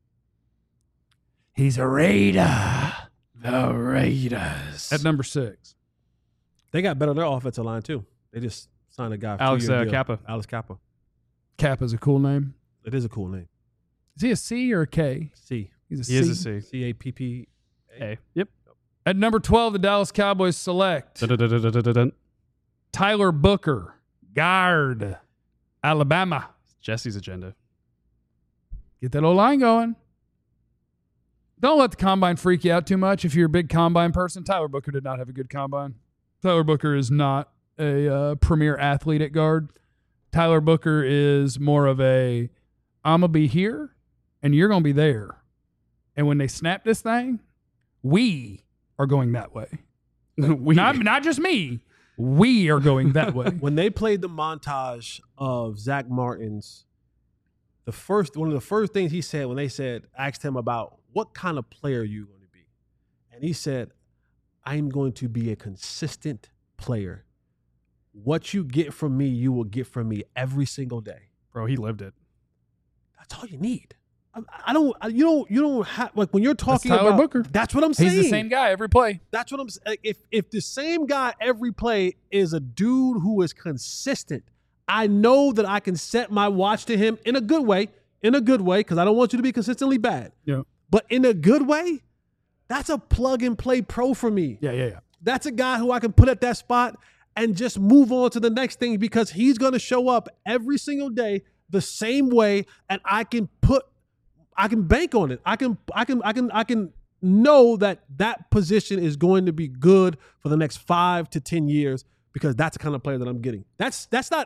He's a Raider. The Raiders. At number 6. They got better on their offensive line too. They just signed a guy. For Alex 2-year deal. Kappa. Alex Kappa. Kappa's a cool name. It is a cool name. Is he a C or a K? C. He's a C. He is a C. CAPP. Hey. Yep. At number 12, the Dallas Cowboys select Dun-dun-dun-dun-dun-dun. Tyler Booker, guard, Alabama. Jesse's agenda. Get that old line going. Don't let the combine freak you out too much. If you're a big combine person, Tyler Booker did not have a good combine. Tyler Booker is not a premier athlete at guard. Tyler Booker is more of a, I'm going to be here and you're going to be there. And when they snap this thing, we are going that way. Not just me. We are going that way. When they played the montage of Zach Martin's, one of the first things he said when they asked him about what kind of player you going to be, and he said, "I'm going to be a consistent player. What you get from me, you will get from me every single day." Bro, he lived it. That's all you need. You don't have, like, when you're talking Tyler about Booker. That's what I'm saying. He's the same guy every play. That's what I'm saying. If the same guy every play is a dude who is consistent, I know that I can set my watch to him in a good way, because I don't want you to be consistently bad. Yeah. But in a good way, that's a plug and play pro for me. Yeah. That's a guy who I can put at that spot and just move on to the next thing, because he's going to show up every single day the same way, and I can bank on it. I can know that position is going to be good for the next 5 to 10 years, because that's the kind of player that I'm getting. That's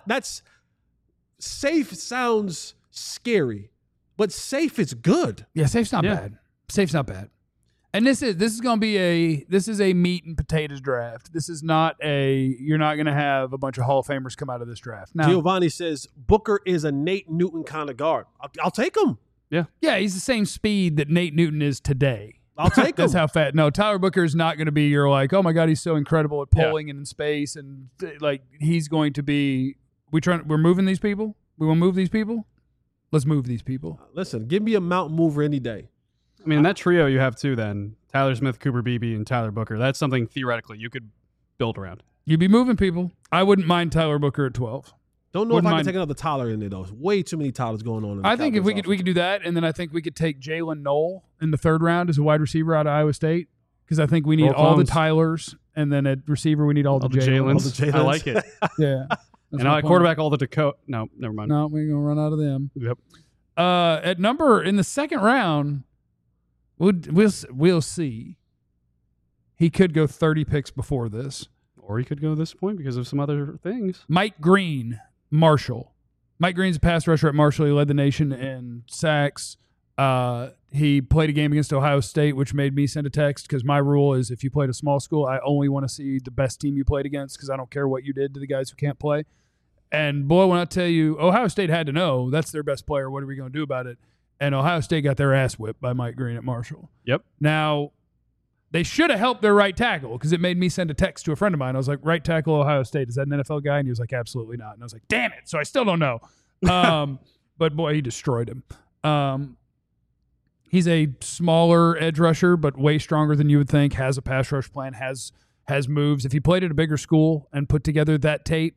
safe sounds scary, but safe is good. Yeah, safe's not Yeah. bad. Safe's not bad. And this is going to be a meat and potatoes draft. This is not you're not going to have a bunch of Hall of Famers come out of this draft. Now, Giovanni says Booker is a Nate Newton kind of guard. I'll take him. yeah, he's the same speed that Nate Newton is today. I'll take him. That's how fat. No, Tyler Booker is not going to be. You're like, oh my God, he's so incredible at pulling and in space, and like he's going to be. We're moving these people. We want to move these people. Let's move these people. Listen, give me a mountain mover any day. I mean, that trio you have too then, Tyler Smith, Cooper Beebe, and Tyler Booker, that's something theoretically you could build around. You'd be moving people. I wouldn't mind Tyler Booker at 12. Don't know Wouldn't if I mind. can take another Tyler in there, though. Way too many Tylers going on. In the I think if Cowboys we could do that, and then I think we could take Jalen Knoll in the 3rd round as a wide receiver out of Iowa State, because I think we need Roll all the clones. Tylers, and then at receiver we need all the Jalen's. All the Jalen's. I like it. Yeah. That's And my at plan. quarterback, all the Dakota. No, never mind. No, we're gonna run out of them. Yep. In the 2nd round, we'll see. He could go 30 picks before this. Or he could go to this point because of some other things. Mike Green, Marshall. Mike Green's a pass rusher at Marshall. He led the nation in sacks. He played a game against Ohio State, which made me send a text, because my rule is if you played a small school, I only want to see the best team you played against, because I don't care what you did to the guys who can't play. And boy, when I tell you, Ohio State had to know that's their best player. What are we going to do about it? And Ohio State got their ass whipped by Mike Green at Marshall. Yep. Now, they should have helped their right tackle, because it made me send a text to a friend of mine. I was like, right tackle Ohio State, is that an NFL guy? And he was like, absolutely not. And I was like, damn it. So I still don't know. But boy, he destroyed him. He's a smaller edge rusher, but way stronger than you would think, has a pass rush plan, has moves. If he played at a bigger school and put together that tape,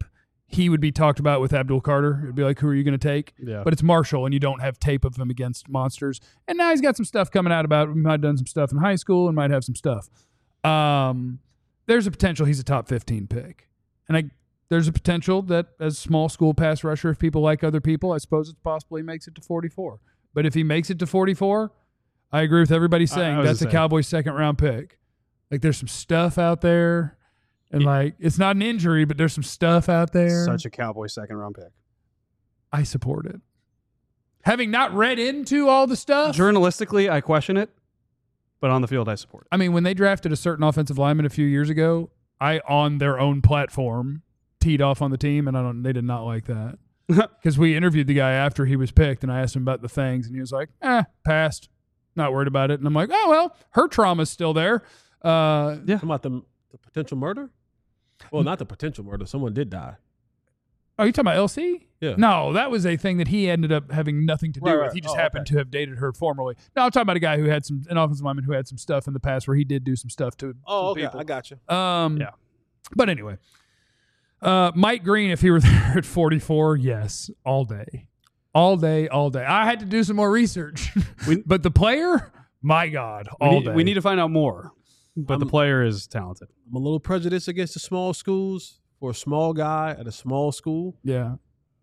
he would be talked about with Abdul Carter. It'd be like, who are you going to take? Yeah. But it's Marshall, and you don't have tape of him against monsters. And now he's got some stuff coming out about him. He might have done some stuff in high school and might have some stuff. There's a potential he's a top 15 pick. And there's a potential that as small school pass rusher, if people like other people, I suppose it's possible he makes it to 44. But if he makes it to 44, I agree with everybody saying that's a Cowboys second-round pick. Like, there's some stuff out there. And, like, it's not an injury, but there's some stuff out there. Such a Cowboy second-round pick. I support it. Having not read into all the stuff. Journalistically, I question it. But on the field, I support it. I mean, when they drafted a certain offensive lineman a few years ago, I, on their own platform, teed off on the team, and they did not like that. Because we interviewed the guy after he was picked, and I asked him about the things, and he was like, passed. Not worried about it. And I'm like, oh, well, her trauma's still there. Yeah. About the potential murder? Well, not the potential murder. Someone did die. Oh, you talking about LC? Yeah. No, that was a thing that he ended up having nothing to do with. He just happened to have dated her formerly. No, I'm talking about a guy who had an offensive lineman who had some stuff in the past where he did do some stuff to people. I got you. Yeah. But anyway, Mike Green, if he were there at 44, yes, all day. All day, all day. I had to do some more research. But the player, my God, all day. We need to find out more. But the player is talented. I'm a little prejudiced against the small schools for a small guy at a small school. Yeah.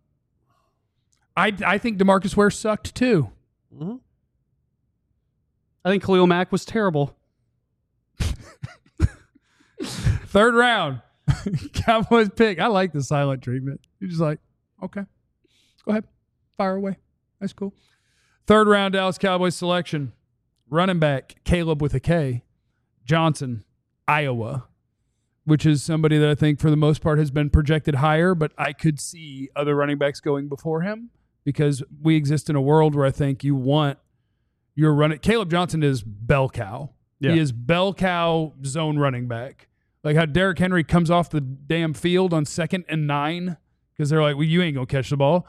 I think DeMarcus Ware sucked too. Mm-hmm. I think Khalil Mack was terrible. Third round. Cowboys pick. I like the silent treatment. You're just like, okay, go ahead. Fire away. That's cool. Third round Dallas Cowboys selection. Running back, Caleb with a K. Johnson, Iowa, which is somebody that I think for the most part has been projected higher, but I could see other running backs going before him because we exist in a world where I think you want your running. Caleb Johnson is bell cow. Yeah. He is bell cow zone running back. Like how Derrick Henry comes off the damn field on 2nd and 9 because they're like, well, you ain't going to catch the ball.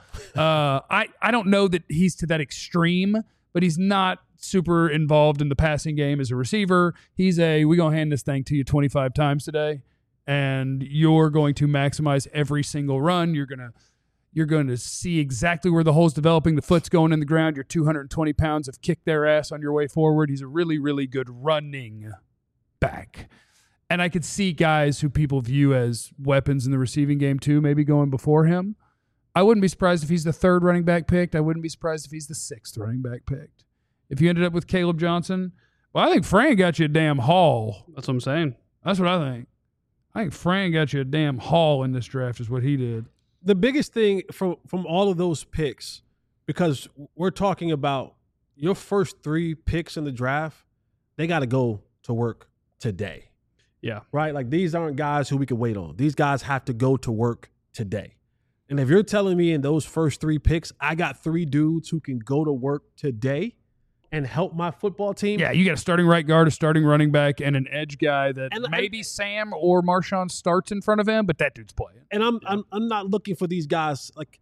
I don't know that he's to that extreme, but he's not super involved in the passing game as a receiver. He's we're going to hand this thing to you 25 times today, and you're going to maximize every single run. You're going to see exactly where the hole's developing. The foot's going in the ground. Your 220 pounds have kicked their ass on your way forward. He's a really, really good running back. And I could see guys who people view as weapons in the receiving game too, maybe going before him. I wouldn't be surprised if he's the 3rd running back picked. I wouldn't be surprised if he's the 6th running back picked. If you ended up with Caleb Johnson, well, I think Fran got you a damn haul. That's what I'm saying. That's what I think. I think Fran got you a damn haul in this draft is what he did. The biggest thing from all of those picks, because we're talking about your first 3 picks in the draft, they got to go to work today. Yeah. Right? Like these aren't guys who we can wait on. These guys have to go to work today. And if you're telling me in those first 3 picks, I got 3 dudes who can go to work today and help my football team. Yeah, you got a starting right guard, a starting running back, and an edge guy that maybe Sam or Marshawn starts in front of him, but that dude's playing. And I'm not looking for these guys. Like,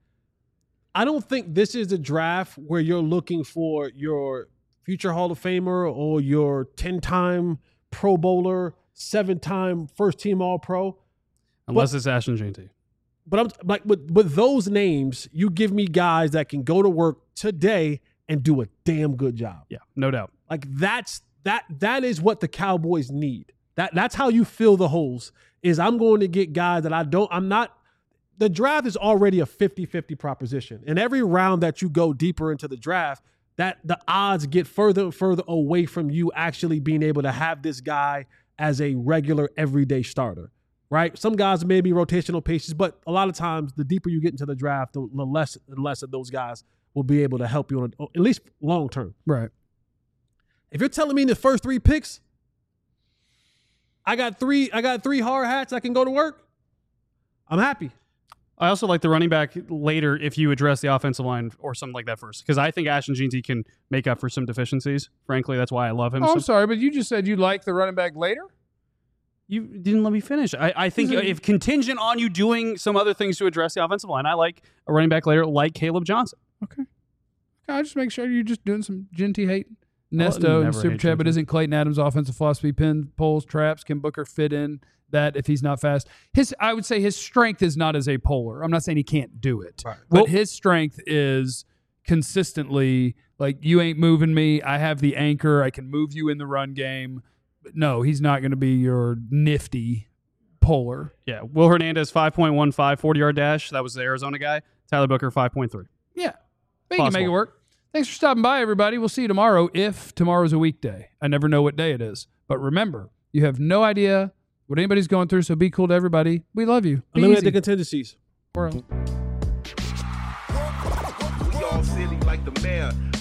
I don't think this is a draft where you're looking for your future Hall of Famer or your 10-time Pro Bowler, 7-time first-team All-Pro. Unless it's Ashton Jeanty. But I'm like with those names, you give me guys that can go to work today and do a damn good job. Yeah, no doubt. Like that is what the Cowboys need. That's how you fill the holes. Is I'm going to get guys that I'm not. The draft is already a 50-50 proposition. And every round that you go deeper into the draft, that the odds get further and further away from you actually being able to have this guy as a regular everyday starter. Right? Some guys may be rotational pieces, but a lot of times the deeper you get into the draft, the less and less of those guys will be able to help you on at least long term. Right. If you're telling me in the first 3 picks, I got three hard hats I can go to work, I'm happy. I also like the running back later if you address the offensive line or something like that first, because I think Ashton Jeanty can make up for some deficiencies. Frankly, that's why I love him. Oh, I'm sorry, but you just said you like the running back later? You didn't let me finish. I think if contingent on you doing some other things to address the offensive line, I like a running back later like Caleb Johnson. Okay. I just make sure you're just doing some Jeanty hate. Nesto, never Super hate Chat, but Juju. isn't Clayton Adams' offensive philosophy pin, pulls, traps? Can Booker fit in that if he's not fast? I would say his strength is not as a polar. I'm not saying he can't do it, but his strength is consistently like, you ain't moving me. I have the anchor. I can move you in the run game. But no, he's not going to be your nifty polar. Yeah. Will Hernandez 5.15 40-yard dash. That was the Arizona guy. Tyler Booker 5.3. Yeah, but you can make Possible. it work. Thanks for stopping by, everybody. We'll see you tomorrow if tomorrow's a weekday. I never know what day it is. But remember, you have no idea what anybody's going through, so be cool to everybody. We love you. Be Eliminate easy. the contingencies. We're out. We all silly like the mayor.